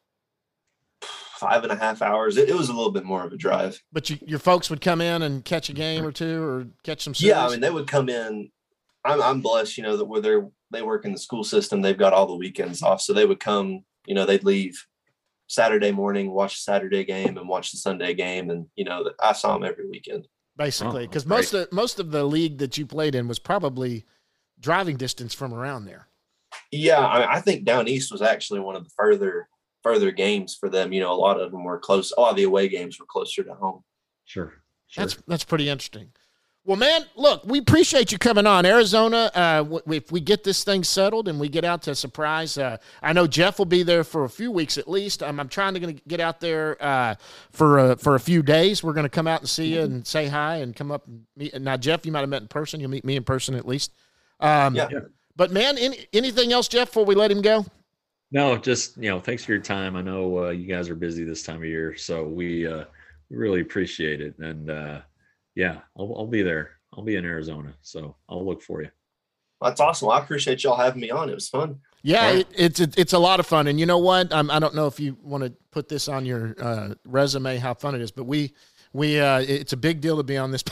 Five and a half hours. It, it was a little bit more of a drive. But you, your folks would come in and catch a game or two, or catch some series? Yeah, I mean, they would come in. I'm I'm blessed, you know, that where they're they work in the school system, they've got all the weekends off, so they would come. You know, they'd leave Saturday morning, watch the Saturday game, and watch the Sunday game, and you know, I saw them every weekend. Basically, because oh, most of most of the league that you played in was probably driving distance from around there. Yeah, I, I think down east was actually one of the further further games for them. You know, a lot of them were close. A lot of the away games were closer to home. Sure, sure. That's that's pretty interesting. Well, man, look, we appreciate you coming on. Arizona, uh, w- if we get this thing settled and we get out to Surprise, uh, I know Jeff will be there for a few weeks at least. Um, I'm trying to gonna get out there uh, for a, for a few days. We're going to come out and see you and say hi and come up and meet. Now, Jeff, you might have met in person. You'll meet me in person at least. Um, yeah. But, man, any, anything else, Jeff, before we let him go? No, just, you know, thanks for your time. I know uh, you guys are busy this time of year, so we uh, really appreciate it. And, uh, yeah, I'll, I'll be there. I'll be in Arizona, so I'll look for you. That's awesome. Well, I appreciate y'all having me on. It was fun. Yeah, right. it, it's it's a lot of fun. And you know what? I'm, I don't know if you want to put this on your uh, resume, how fun it is, but we we uh, it's a big deal to be on this.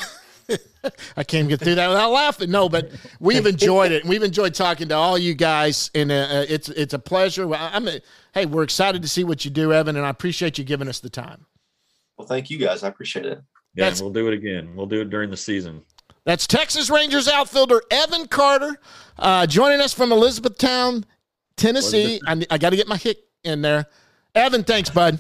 I can't get through that without laughing. No, but we've enjoyed it. We've enjoyed talking to all you guys, and uh, it's it's a pleasure. I'm a, hey, we're excited to see what you do, Evan, and I appreciate you giving us the time. Well, thank you guys. I appreciate it. Yeah, That's- we'll do it again. We'll do it during the season. That's Texas Rangers outfielder Evan Carter uh, joining us from Elizabethtown, Tennessee. I, I got to get my hick in there. Evan, thanks, bud.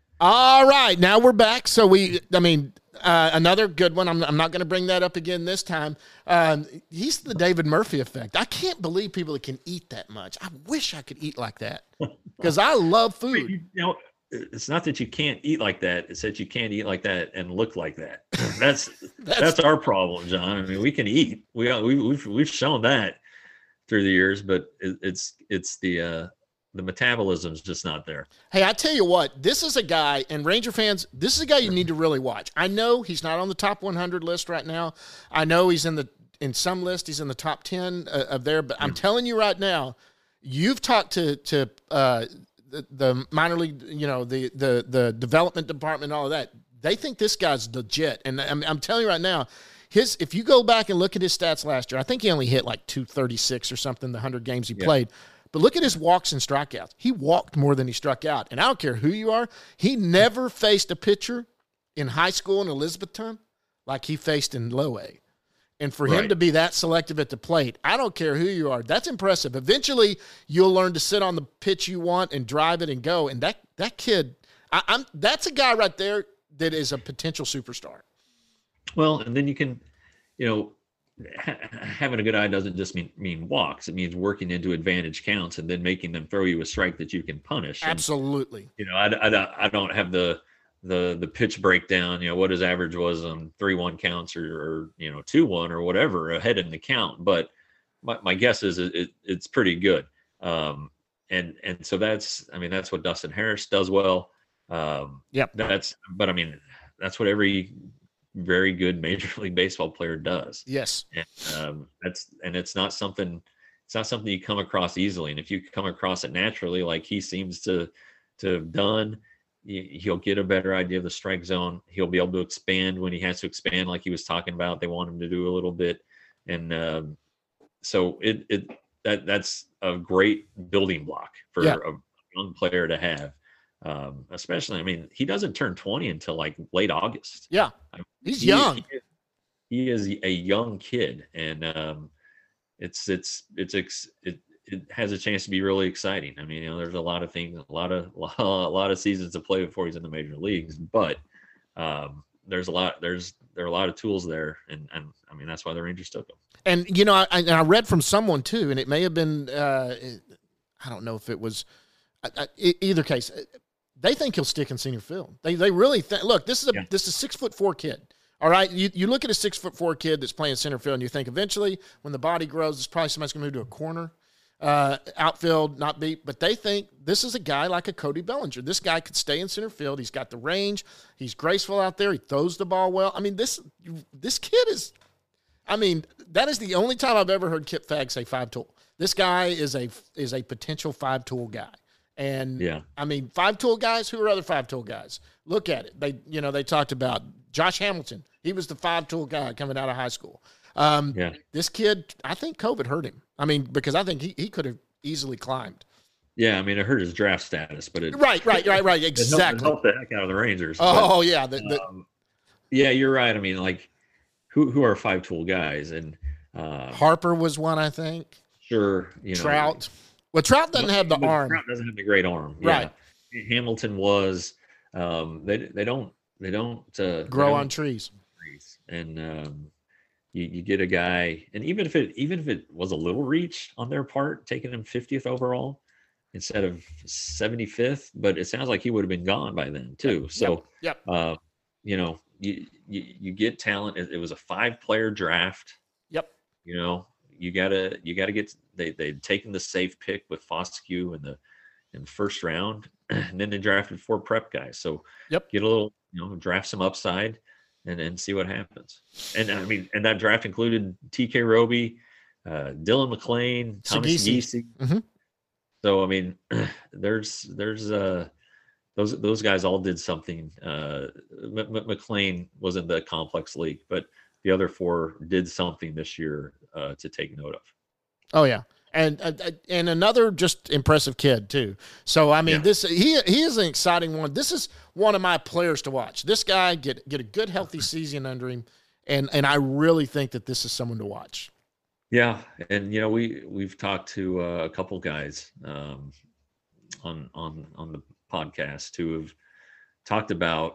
All right, now we're back. So we, I mean, uh, another good one. I'm, I'm not going to bring that up again this time. Um, he's the David Murphy effect. I can't believe people that can eat that much. I wish I could eat like that because I love food. You know, it's not that you can't eat like that. It's that you can't eat like that and look like that. That's that's, that's our problem, John. I mean, we can eat. We we we've we've shown that through the years, but it, it's it's the uh, the metabolism's just not there. Hey, I tell you what, this is a guy, and Ranger fans, this is a guy you need to really watch. I know he's not on the top one hundred list right now. I know he's in the in some list, he's in the top ten uh, of there, but I'm telling you right now, you've talked to to uh, the, the minor league, you know, the the the development department, all of that. They think this guy's legit, and I'm, I'm telling you right now, his if you go back and look at his stats last year, I think he only hit like two thirty-six or something the one hundred games he yeah. played. But look at his walks and strikeouts. He walked more than he struck out. And I don't care who you are, he never faced a pitcher in high school in Elizabethtown like he faced in low A. And for right. him to be that selective at the plate, I don't care who you are. That's impressive. Eventually, you'll learn to sit on the pitch you want and drive it and go. And that that kid, I, I'm that's a guy right there that is a potential superstar. Well, and then you can, you know, ha- having a good eye doesn't just mean mean walks. It means working into advantage counts and then making them throw you a strike that you can punish. And, absolutely. you know, I, I, I don't have the the the pitch breakdown. You know what his average was on three one counts or, or you know two one or whatever ahead in the count. But my, my guess is it, it, it's pretty good. Um, and and so that's I mean that's what Dustin Harris does well. Um, yep. That's but I mean that's what every very good Major League Baseball player does. Yes. And um, that's and it's not something it's not something you come across easily. And if you come across it naturally, like he seems to to have done, he'll get a better idea of the strike zone. He'll be able to expand when he has to expand, like he was talking about. They want him to do a little bit, and um, so it it that that's a great building block for yeah. a young player to have. Um, especially, I mean, he doesn't turn twenty until like late August. Yeah, I mean, he's he, young. He, he is a young kid, and um, it's it's it's it, it has a chance to be really exciting. I mean, you know, there's a lot of things, a lot of a lot of seasons to play before he's in the major leagues, but um, there's a lot there's there are a lot of tools there, and and I mean that's why the Rangers took him. And you know, I, and I read from someone too, and it may have been uh, I don't know if it was I, I, either case. They think he'll stick in senior field. They they really think. Look, this is a yeah. this is a six foot four kid. All right, you you look at a six foot four kid that's playing center field, and you think eventually, when the body grows, it's probably somebody's going to move to a corner, uh, outfield, not be. But they think this is a guy like a Cody Bellinger. This guy could stay in center field. He's got the range. He's graceful out there. He throws the ball well. I mean, this this kid is. I mean, that is the only time I've ever heard Kip Fagg say five tool. This guy is a is a potential five tool guy. And yeah, I mean, five tool guys. Who are other five tool guys? Look at it. They, you know, they talked about Josh Hamilton. He was the five tool guy coming out of high school. Um, yeah, this kid, I think COVID hurt him. I mean, because I think he, he could have easily climbed. Yeah, I mean, it hurt his draft status, but it right, right, right, right, exactly. It helped, it helped the heck out of the Rangers. Oh but, yeah, the, the, um, yeah, you're right. I mean, like, who who are five tool guys? And uh, Harper was one, I think. Sure, you know, Trout. Well, Trout doesn't have the but arm. Trout doesn't have the great arm. Right. Yeah. Hamilton was. Um, they they don't they don't uh, grow they don't on trees. trees. And um, you you get a guy, and even if it even if it was a little reach on their part, taking him fiftieth overall instead of seventy-fifth, but it sounds like he would have been gone by then too. Yep. So yep. Uh, you know, you, you you get talent. It, it was a five player draft. Yep. You know. You gotta, you gotta get. They they'd taken the safe pick with Foscue in the in the first round, and then they drafted four prep guys. So yep, get a little, you know, draft some upside, and and see what happens. And I mean, and that draft included T K Roby, uh, Dylan McClain, Thomas Giese. Mm-hmm. So I mean, there's there's uh those those guys all did something. Uh, M- M- McClain was in the complex league, but the other four did something this year uh, to take note of. Oh yeah. And uh, and another just impressive kid too. So I mean, yeah. this he he is an exciting one. This is one of my players to watch. This guy get get a good healthy season under him, and and I really think that this is someone to watch. Yeah, and you know we we've talked to uh, a couple guys um, on on on the podcast who have talked about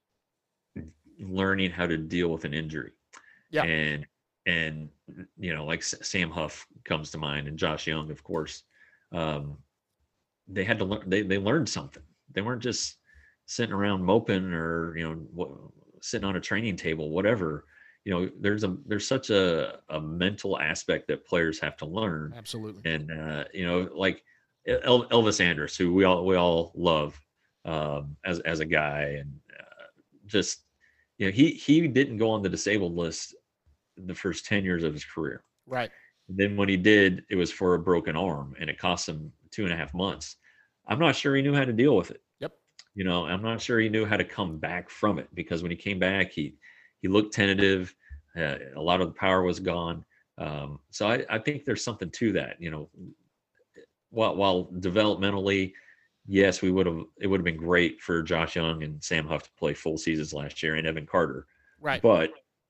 learning how to deal with an injury. Yeah, and. And, you know, like Sam Huff comes to mind and Josh Young, of course, um, they had to learn, they, they learned something. They weren't just sitting around moping or, you know, what, sitting on a training table, whatever. You know, there's a, there's such a, a mental aspect that players have to learn. Absolutely. And, uh, you know, like El- Elvis Andrus, who we all, we all love um, as, as a guy, and uh, just, you know, he, he didn't go on the disabled list the first ten years of his career. Right. And then when he did, it was for a broken arm and it cost him two and a half months. I'm not sure he knew how to deal with it. Yep. You know, I'm not sure he knew how to come back from it, because when he came back, he, he looked tentative. Uh, a lot of the power was gone. Um, so I, I think there's something to that, you know, while, while developmentally, yes, we would have, it would have been great for Josh Young and Sam Huff to play full seasons last year, and Evan Carter. Right. But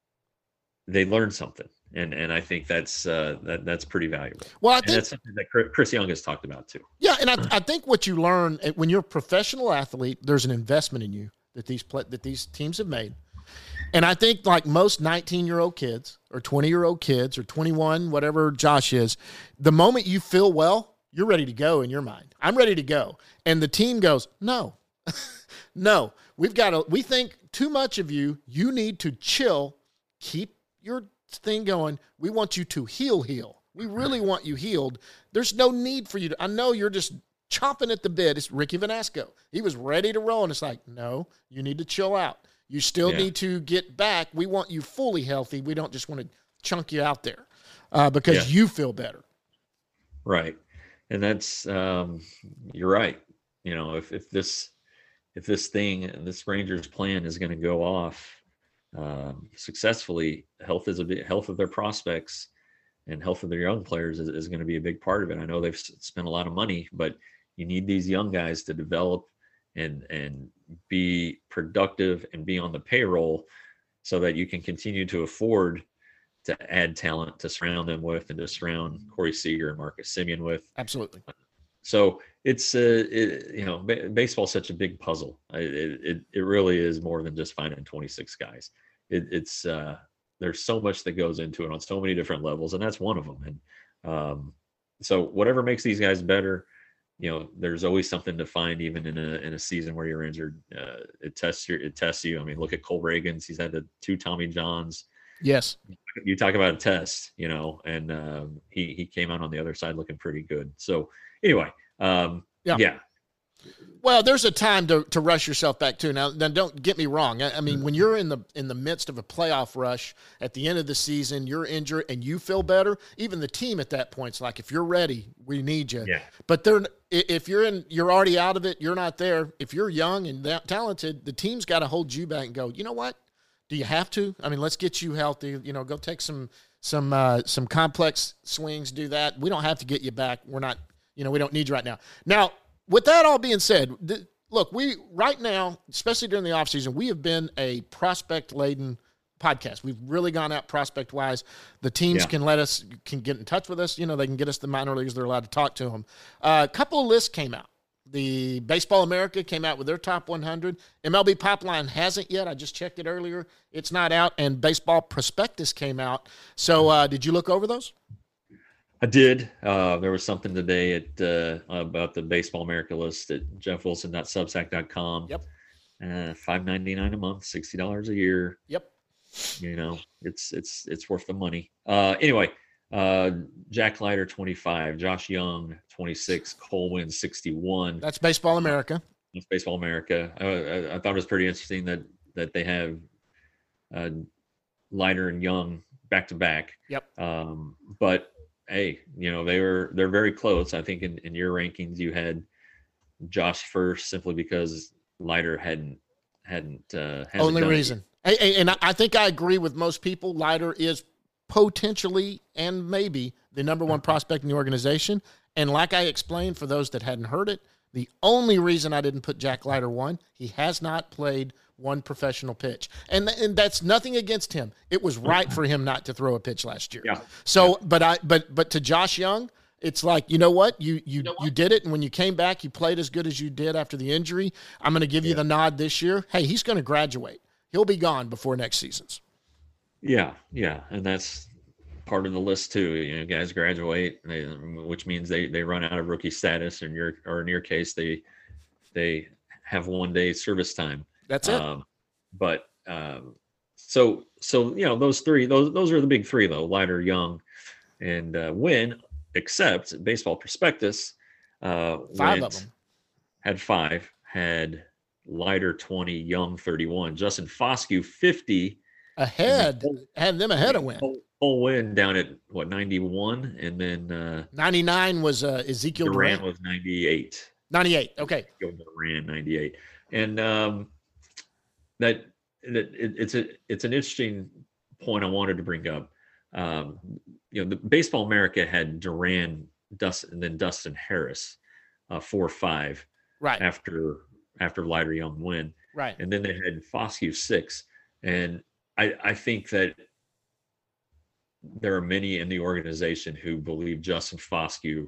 they learned something, and and I think that's uh, that that's pretty valuable. Well, I and think that's something that Chris Young has talked about too. Yeah, and I, I think what you learn when you're a professional athlete, there's an investment in you that these play, that these teams have made, and I think like most nineteen-year-old kids or twenty-year-old kids or twenty-one, whatever Josh is, the moment you feel well, you're ready to go in your mind. I'm ready to go, and the team goes, no, no, we've got to. We think too much of you. You need to chill, keep your thing going. We want you to heal, heal. We really want you healed. There's no need for you to, I know you're just chomping at the bit. It's Ricky Vanasco. He was ready to roll, and it's like, no, you need to chill out. You still yeah. need to get back. We want you fully healthy. We don't just want to chunk you out there uh, because yeah. you feel better. Right. And that's, um, you're right. You know, if, if this, if this thing, this Rangers plan is going to go off, Um, successfully, health is a bit, health of their prospects and health of their young players is, is going to be a big part of it. I know they've spent a lot of money, but you need these young guys to develop and and be productive and be on the payroll so that you can continue to afford to add talent to surround them with and to surround Corey Seager and Marcus Semien with. Absolutely. So it's uh, it, you know, b- baseball's such a big puzzle. It, it it really is more than just finding twenty-six guys. It, it's uh, there's so much that goes into it on so many different levels, and that's one of them. And um, so whatever makes these guys better, you know, there's always something to find, even in a in a season where you're injured. Uh, it tests your it tests you. I mean, look at Cole Reagans. He's had the two Tommy Johns. Yes. You talk about a test, you know, and um, he he came out on the other side looking pretty good. So anyway, um, yeah. yeah. Well, there's a time to, to rush yourself back too. Now, now, don't get me wrong. I, I mean, when you're in the in the midst of a playoff rush at the end of the season, you're injured and you feel better. Even the team at that point's like, if you're ready, we need you. Yeah. But they're if you're in, you're already out of it. You're not there. If you're young and that talented, the team's got to hold you back and go, you know what? Do you have to? I mean, let's get you healthy. You know, go take some some uh, some complex swings. Do that. We don't have to get you back. We're not. You know, we don't need you right now. Now. With that all being said, th- look, we right now, especially during the offseason, we have been a prospect-laden podcast. We've really gone out prospect-wise. The teams yeah. can let us, can get in touch with us. You know, they can get us the minor leagues. They're allowed to talk to them. Uh, a couple of lists came out. The Baseball America came out with their top one hundred. M L B Pipeline hasn't yet. I just checked it earlier. It's not out. And Baseball Prospectus came out. So uh, did you look over those? I did. Uh, there was something today at uh, about the Baseball America list at jeff wilson dot substack dot com. Yep. Uh, five ninety-nine a month, sixty dollars a year. Yep. You know, it's it's it's worth the money. Uh, anyway, uh, Jack Leiter twenty-five, Josh Young twenty-six, Cole Winn sixty-one. That's Baseball America. That's Baseball America. I, I, I thought it was pretty interesting that that they have uh, Leiter and Young back to back. Yep. Um, but hey, you know, they were, they're very close. I think in, in your rankings, you had Josh first simply because Leiter hadn't, hadn't, uh, only reason. Hey, and I think I agree with most people. Leiter is potentially and maybe the number one prospect in the organization. And like I explained, for those that hadn't heard it, the only reason I didn't put Jack Leiter one, he has not played one professional pitch. And, and that's nothing against him. It was right for him not to throw a pitch last year. Yeah. So, yeah. but I, but, but to Josh Young, it's like, you know what? You, you, you, know what? you did it. And when you came back, you played as good as you did after the injury. I'm going to give you yeah. the nod this year. Hey, he's going to graduate. He'll be gone before next season's. Yeah. Yeah. And that's part of the list too. You know, guys graduate, they, which means they, they run out of rookie status, and your, or in your case, they, they have one day service time. That's it. Um, but um, so so you know those three those those are the big three though: Leiter, Young, and uh, Wynn. Except Baseball Prospectus, uh, five went, of them had five, had Leiter twenty, Young thirty-one, Justin Foscue fifty, ahead, had them ahead of Wynn. Full Wynn down at what ninety-one, and then uh, ninety-nine was uh, Ezekiel Duran Duran. was ninety-eight. ninety-eight. Okay. Duran ninety-eight, and um, that that it, it's a it's an interesting point I wanted to bring up. Um, you know, the Baseball America had Duran, Dustin, and then Dustin Harris, uh, four five, right after after Leiter, Young, Wynn, right, and then they had Foscue six, and I I think that there are many in the organization who believe Justin Foscue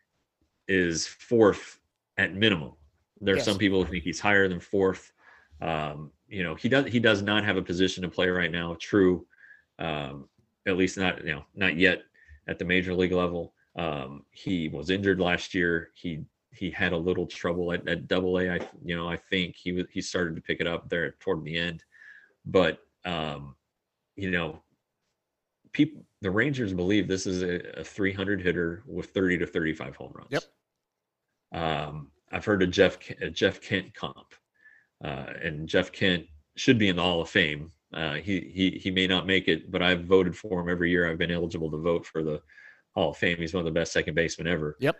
is fourth at minimum. There are yes. some people who think he's higher than fourth. Um, you know, he does he does not have a position to play right now. True. Um, at least not, you know, not yet at the major league level. Um, he was injured last year. He, he had a little trouble at, at double A. I, you know, I think he was, he started to pick it up there toward the end, but um, you know, people, the Rangers believe this is a, a three hundred hitter with thirty to thirty-five home runs. Yep. Um, I've heard a Jeff, a Jeff Kent comp, uh, and Jeff Kent should be in the Hall of Fame. Uh, he he he may not make it, but I've voted for him every year. I've been eligible to vote for the Hall of Fame. He's one of the best second basemen ever. Yep.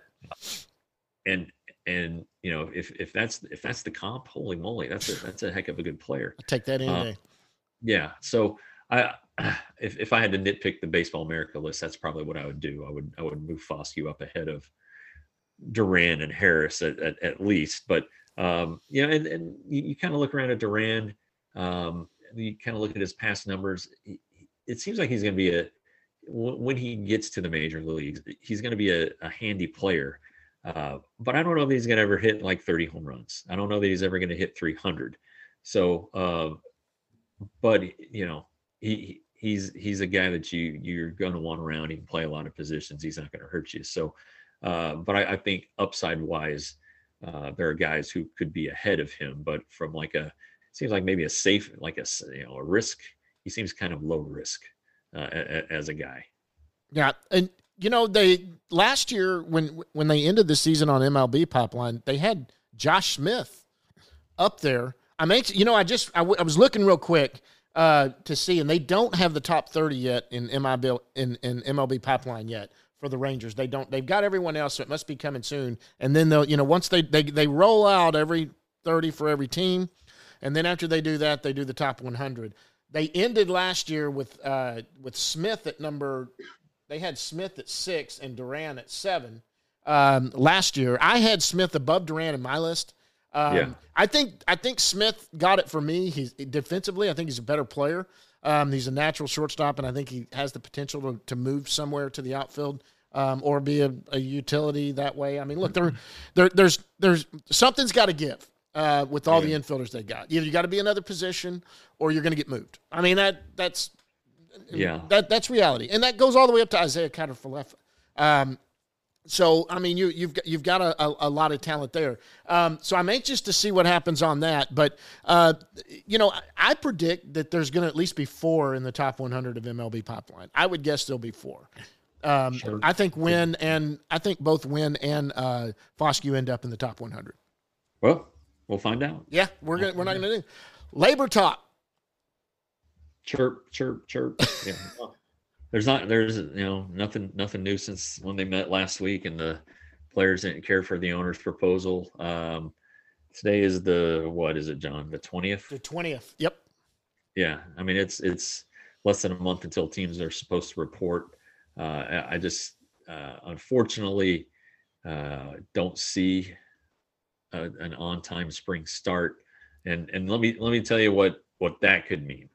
And and you know if if that's if that's the comp, holy moly, that's a that's a heck of a good player. I'll take that any uh, day. Yeah. So I if if I had to nitpick the Baseball America list, that's probably what I would do. I would I would move Foscue up ahead of Duran and Harris at at, at least. But um, you know, and and you, you kind of look around at Duran. Um, you kind of look at his past numbers. It seems like he's going to be a, when he gets to the major leagues, he's going to be a, a handy player. Uh, but I don't know if he's going to ever hit like thirty home runs. I don't know that he's ever going to hit three hundred. So, uh, but you know, he, he's, he's a guy that you, you're going to want around. He can play a lot of positions. He's not going to hurt you. So, uh, but I, I think upside wise, uh, there are guys who could be ahead of him, but from like a, seems like maybe a safe, like a, you know, a risk. He seems kind of low risk uh, as a guy. Yeah. And, you know, they last year when when they ended the season on M L B Pipeline, they had Josh Smith up there. I mean, you know, I just I, w- I was looking real quick uh, to see, and they don't have the top thirty yet in M I B in, in M L B Pipeline yet for the Rangers. They don't. They've got everyone else, so it must be coming soon. And then they'll, you know, once they they they roll out every thirty for every team. And then after they do that, they do the top one hundred. They ended last year with uh, with Smith at number – they had Smith at six and Duran at seven um, last year. I had Smith above Duran in my list. Um, yeah. I think I think Smith got it for me. He's defensively, I think he's a better player. Um, he's a natural shortstop, and I think he has the potential to, to move somewhere to the outfield um, or be a, a utility that way. I mean, look, there, there there's there's something's got to give. Uh, with all yeah. the infielders they got, either you got to be another position or you're going to get moved. I mean that that's yeah that that's reality, and that goes all the way up to Isaiah Kiner-Falefa. Um, so I mean you you've got you've got a, a, a lot of talent there. Um, so I'm anxious to see what happens on that. But uh, you know I, I predict that there's going to at least be four in the top one hundred of M L B Pipeline. I would guess there'll be four. Um, sure. I think Wynn and I think both Wynn and uh, Foscue end up in the top one hundred. Well. We'll find out. Yeah, we're gonna we're not gonna do labor talk. Chirp, chirp, chirp. Yeah. There's not there's you know nothing nothing new since when they met last week and the players didn't care for the owner's proposal. Um, today is the what is it, John? The twentieth. The twentieth. Yep. Yeah, I mean it's it's less than a month until teams are supposed to report. Uh, I, I just uh, unfortunately uh, don't see a, an on-time spring start, and and let me let me tell you what what that could mean.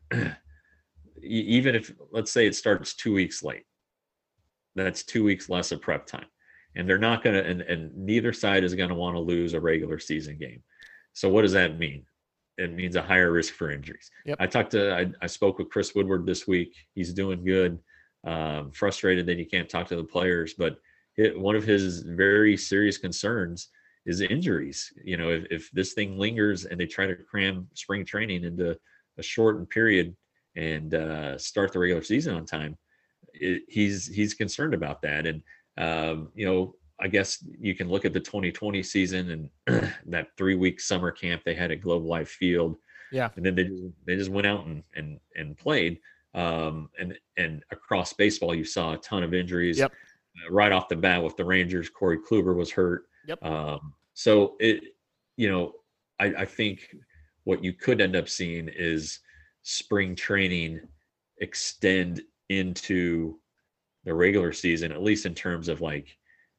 Even if, let's say, it starts two weeks late, that's two weeks less of prep time, and they're not going to, and, and neither side is going to want to lose a regular season game. So what does that mean? It means a higher risk for injuries. Yep. I talked to, I, I spoke with Chris Woodward this week. He's doing good. Um, frustrated that he can't talk to the players, but it, one of his very serious concerns is injuries. You know, if, if this thing lingers and they try to cram spring training into a shortened period and uh, start the regular season on time, it, he's he's concerned about that. And um, you know, I guess you can look at the twenty twenty season and that three-week summer camp they had at Globe Life Field. Yeah, and then they just, they just went out and and and played. Um, and and across baseball, you saw a ton of injuries. Yep. Uh, right off the bat with the Rangers, Corey Kluber was hurt. Yep. Um, so it, you know, I, I think what you could end up seeing is spring training extend into the regular season, at least in terms of like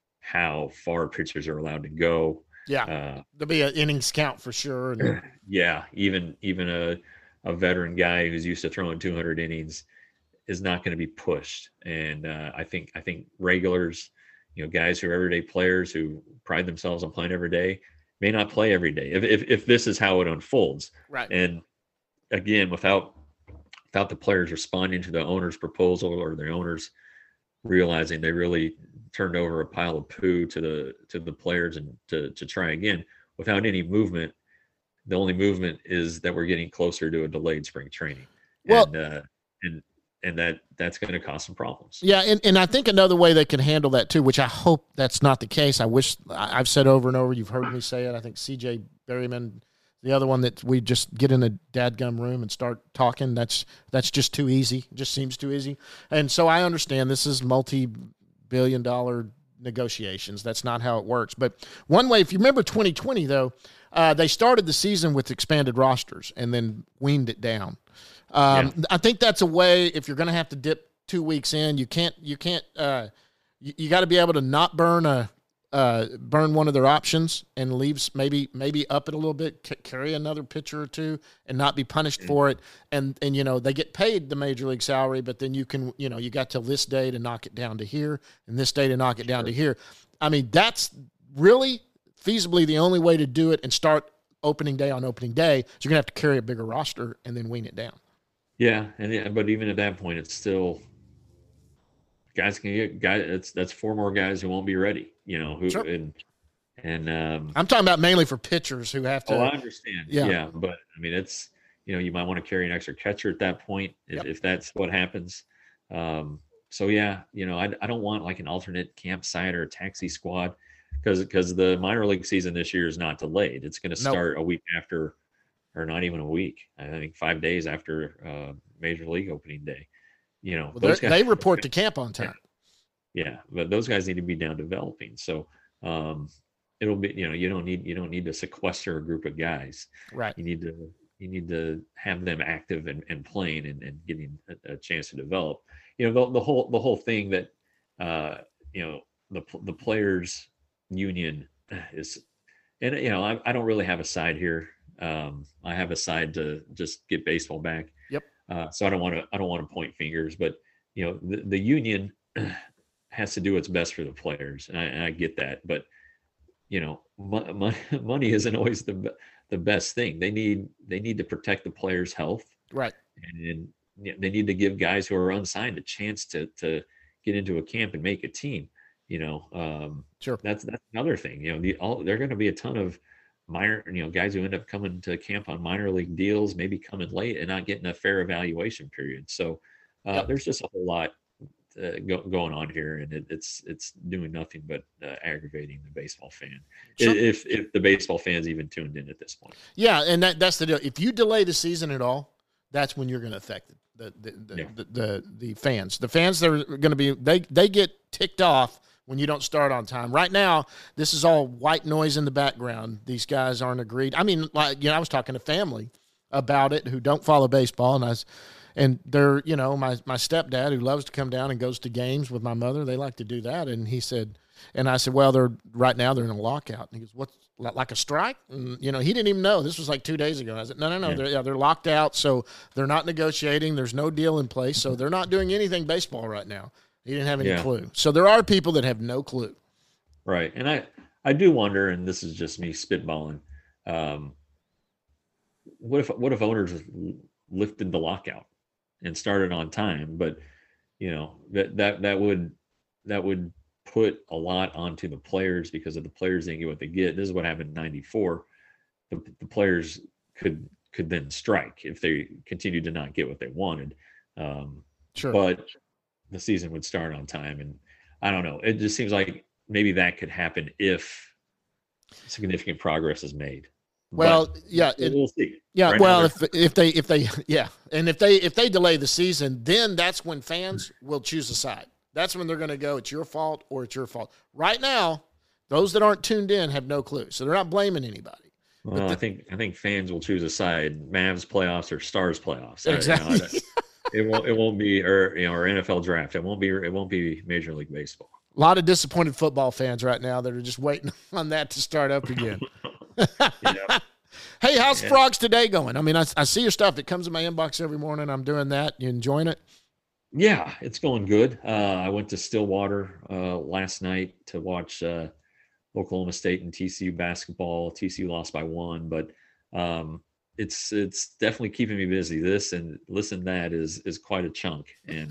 how far pitchers are allowed to go. Yeah, uh, there'll be an innings count for sure. And yeah, even even a a veteran guy who's used to throwing two hundred innings is not going to be pushed. And uh, I think I think regulars, you know, guys who are everyday players who pride themselves on playing every day may not play every day if if, if this is how it unfolds. Right. And again, without without the players responding to the owner's proposal or the owners realizing they really turned over a pile of poo to the to the players and to to try again without any movement, the only movement is that we're getting closer to a delayed spring training. Well, and uh, and and that that's going to cause some problems. Yeah, and, and I think another way they can handle that too, which I hope that's not the case. I wish I've said over and over. You've heard me say it. I think C J Berryman, the other one, that we just get in a dadgum room and start talking. That's that's just too easy. It just seems too easy. And so I understand this is multi-billion dollar negotiations. That's not how it works. But one way, if you remember twenty twenty though, uh, they started the season with expanded rosters and then weaned it down. Um, yeah. I think that's a way, if you're going to have to dip two weeks in, you can't, you can't, uh, you, you got to be able to not burn a, uh, burn one of their options and leaves maybe, maybe up it a little bit, c- carry another pitcher or two and not be punished mm-hmm. for it. And, and, you know, they get paid the major league salary, but then you can, you know, you got till this day to knock it down to here and this day to knock it down sure. to here. I mean, that's really feasibly the only way to do it and start opening day on opening day. So you're gonna have to carry a bigger roster and then wean it down. Yeah, and yeah, but even at that point, it's still guys can get guys. That's that's four more guys who won't be ready. You know who sure. and and um, I'm talking about mainly for pitchers who have to. Oh, I understand. Yeah, yeah, but I mean, it's you know you might want to carry an extra catcher at that point if, yep. if that's what happens. Um, so yeah, you know, I I don't want like an alternate campsite or a taxi squad because because the minor league season this year is not delayed. It's going to start nope. a week after. Or not even a week. I think five days after uh, Major League opening day. You know, well, those guys, they report to camp on time. Yeah, but those guys need to be down developing. So um, it'll be, you know, you don't need you don't need to sequester a group of guys. Right. You need to you need to have them active and, and playing and, and getting a, a chance to develop. You know, the, the whole the whole thing that uh, you know the the players union is, and you know, I, I don't really have a side here. Um, I have a side to just get baseball back. Yep. Uh, so I don't want to, I don't want to point fingers, but you know, the, the union has to do what's best for the players. And I, and I get that, but you know, money, money isn't always the, the best thing. They need, they need to protect the players' health. Right. And, and they need to give guys who are unsigned a chance to, to get into a camp and make a team, you know? Um, sure. That's, that's another thing, you know, the, all, there are going to be a ton of, minor, you know, guys who end up coming to camp on minor league deals, maybe coming late and not getting a fair evaluation period. So uh, yep. there's just a whole lot uh, go, going on here, and it, it's it's doing nothing but uh, aggravating the baseball fan. Sure. If if the baseball fans even tuned in at this point. Yeah, and that, that's the deal. If you delay the season at all, that's when you're going to affect the the the, yeah. the the the fans. The fans that are going to be they they get ticked off when you don't start on time. Right now, this is all white noise in the background. These guys aren't agreed. I mean, like, you know, I was talking to family about it who don't follow baseball, and I was, and they're, you know, my, my stepdad who loves to come down and goes to games with my mother, they like to do that. And he said, and I said, well, they're right now they're in a lockout. And he goes, what's like a strike? And, you know, he didn't even know. This was like two days ago. I said, no, no, no. Yeah. They're, yeah, they're locked out. So they're not negotiating. There's no deal in place. So they're not doing anything baseball right now. He didn't have any yeah. clue. So there are people that have no clue. Right. And I, I do wonder, and this is just me spitballing, um, what if what if owners lifted the lockout and started on time? But you know that that that would that would put a lot onto the players, because if the players didn't get what they get, this is what happened in ninety-four. The, the players could could then strike if they continued to not get what they wanted. Um, sure. But the season would start on time, and I don't know. It just seems like maybe that could happen if significant progress is made. Well, but yeah, it, we'll see. Yeah, right well, if if they if they yeah, and if they if they delay the season, then that's when fans will choose a side. That's when they're going to go, it's your fault or it's your fault. Right now, those that aren't tuned in have no clue, so they're not blaming anybody. Well, the, I think I think fans will choose a side: Mavs playoffs or Stars playoffs. Exactly. I, you know, it won't it won't be or you know or N F L draft. It won't be it won't be Major League Baseball. A lot of disappointed football fans right now that are just waiting on that to start up again. Yeah. Hey, how's yeah. Frogs Today going? I mean, I, I see your stuff. It comes in my inbox every morning. I'm doing that. You enjoying it? Yeah, it's going good. Uh, I went to Stillwater uh, last night to watch uh, Oklahoma State and T C U basketball. T C U lost by one, but um, it's it's definitely keeping me busy. This and listen, that is is quite a chunk. And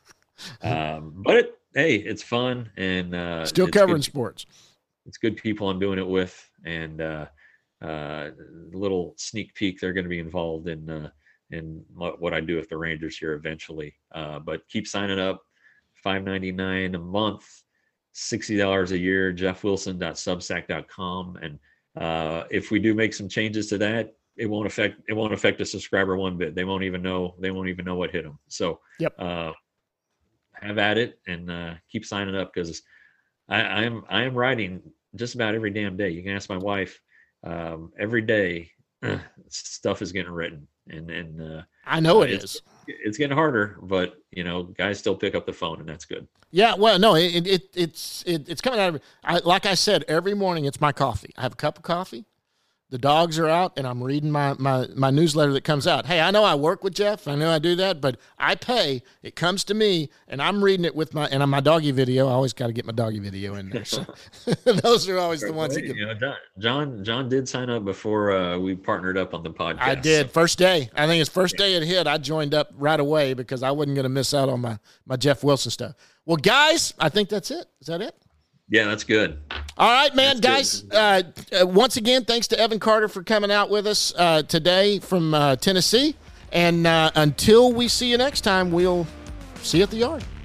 uh, um, but it, hey, it's fun and uh, still it's covering good, sports. It's good people I'm doing it with, and uh, uh, little sneak peek, they're going to be involved in. Uh, and what I do with the Rangers here eventually. Uh, but keep signing up, five ninety-nine a month, sixty dollars a year, jeff wilson dot substack dot com. And uh, if we do make some changes to that, it won't affect, it won't affect a subscriber one bit. They won't even know, they won't even know what hit them. So yep. uh, have at it and uh, keep signing up, because I, I am, I am writing just about every damn day. You can ask my wife, um, every day stuff is getting written. And and uh, I know it it's, is. It's getting harder, but you know, guys still pick up the phone, and that's good. Yeah, well, no, it, it it's it, it's coming out of. I, like I said, every morning it's my coffee. I have a cup of coffee. The dogs are out, and I'm reading my, my, my newsletter that comes out. Hey, I know I work with Jeff. I know I do that, but I pay. It comes to me, and I'm reading it with my – and on my doggy video. I always got to get my doggy video in there. So those are always the ones that get – you know, John, John John did sign up before uh, we partnered up on the podcast. I did. So. First day. I think it's first day it hit. I joined up right away because I wasn't going to miss out on my, my Jeff Wilson stuff. Well, guys, I think that's it. Is that it? Yeah, that's good. All right, man, that's guys. Uh, uh, once again, thanks to Evan Carter for coming out with us uh, today from uh, Tennessee. And uh, until we see you next time, we'll see you at the yard.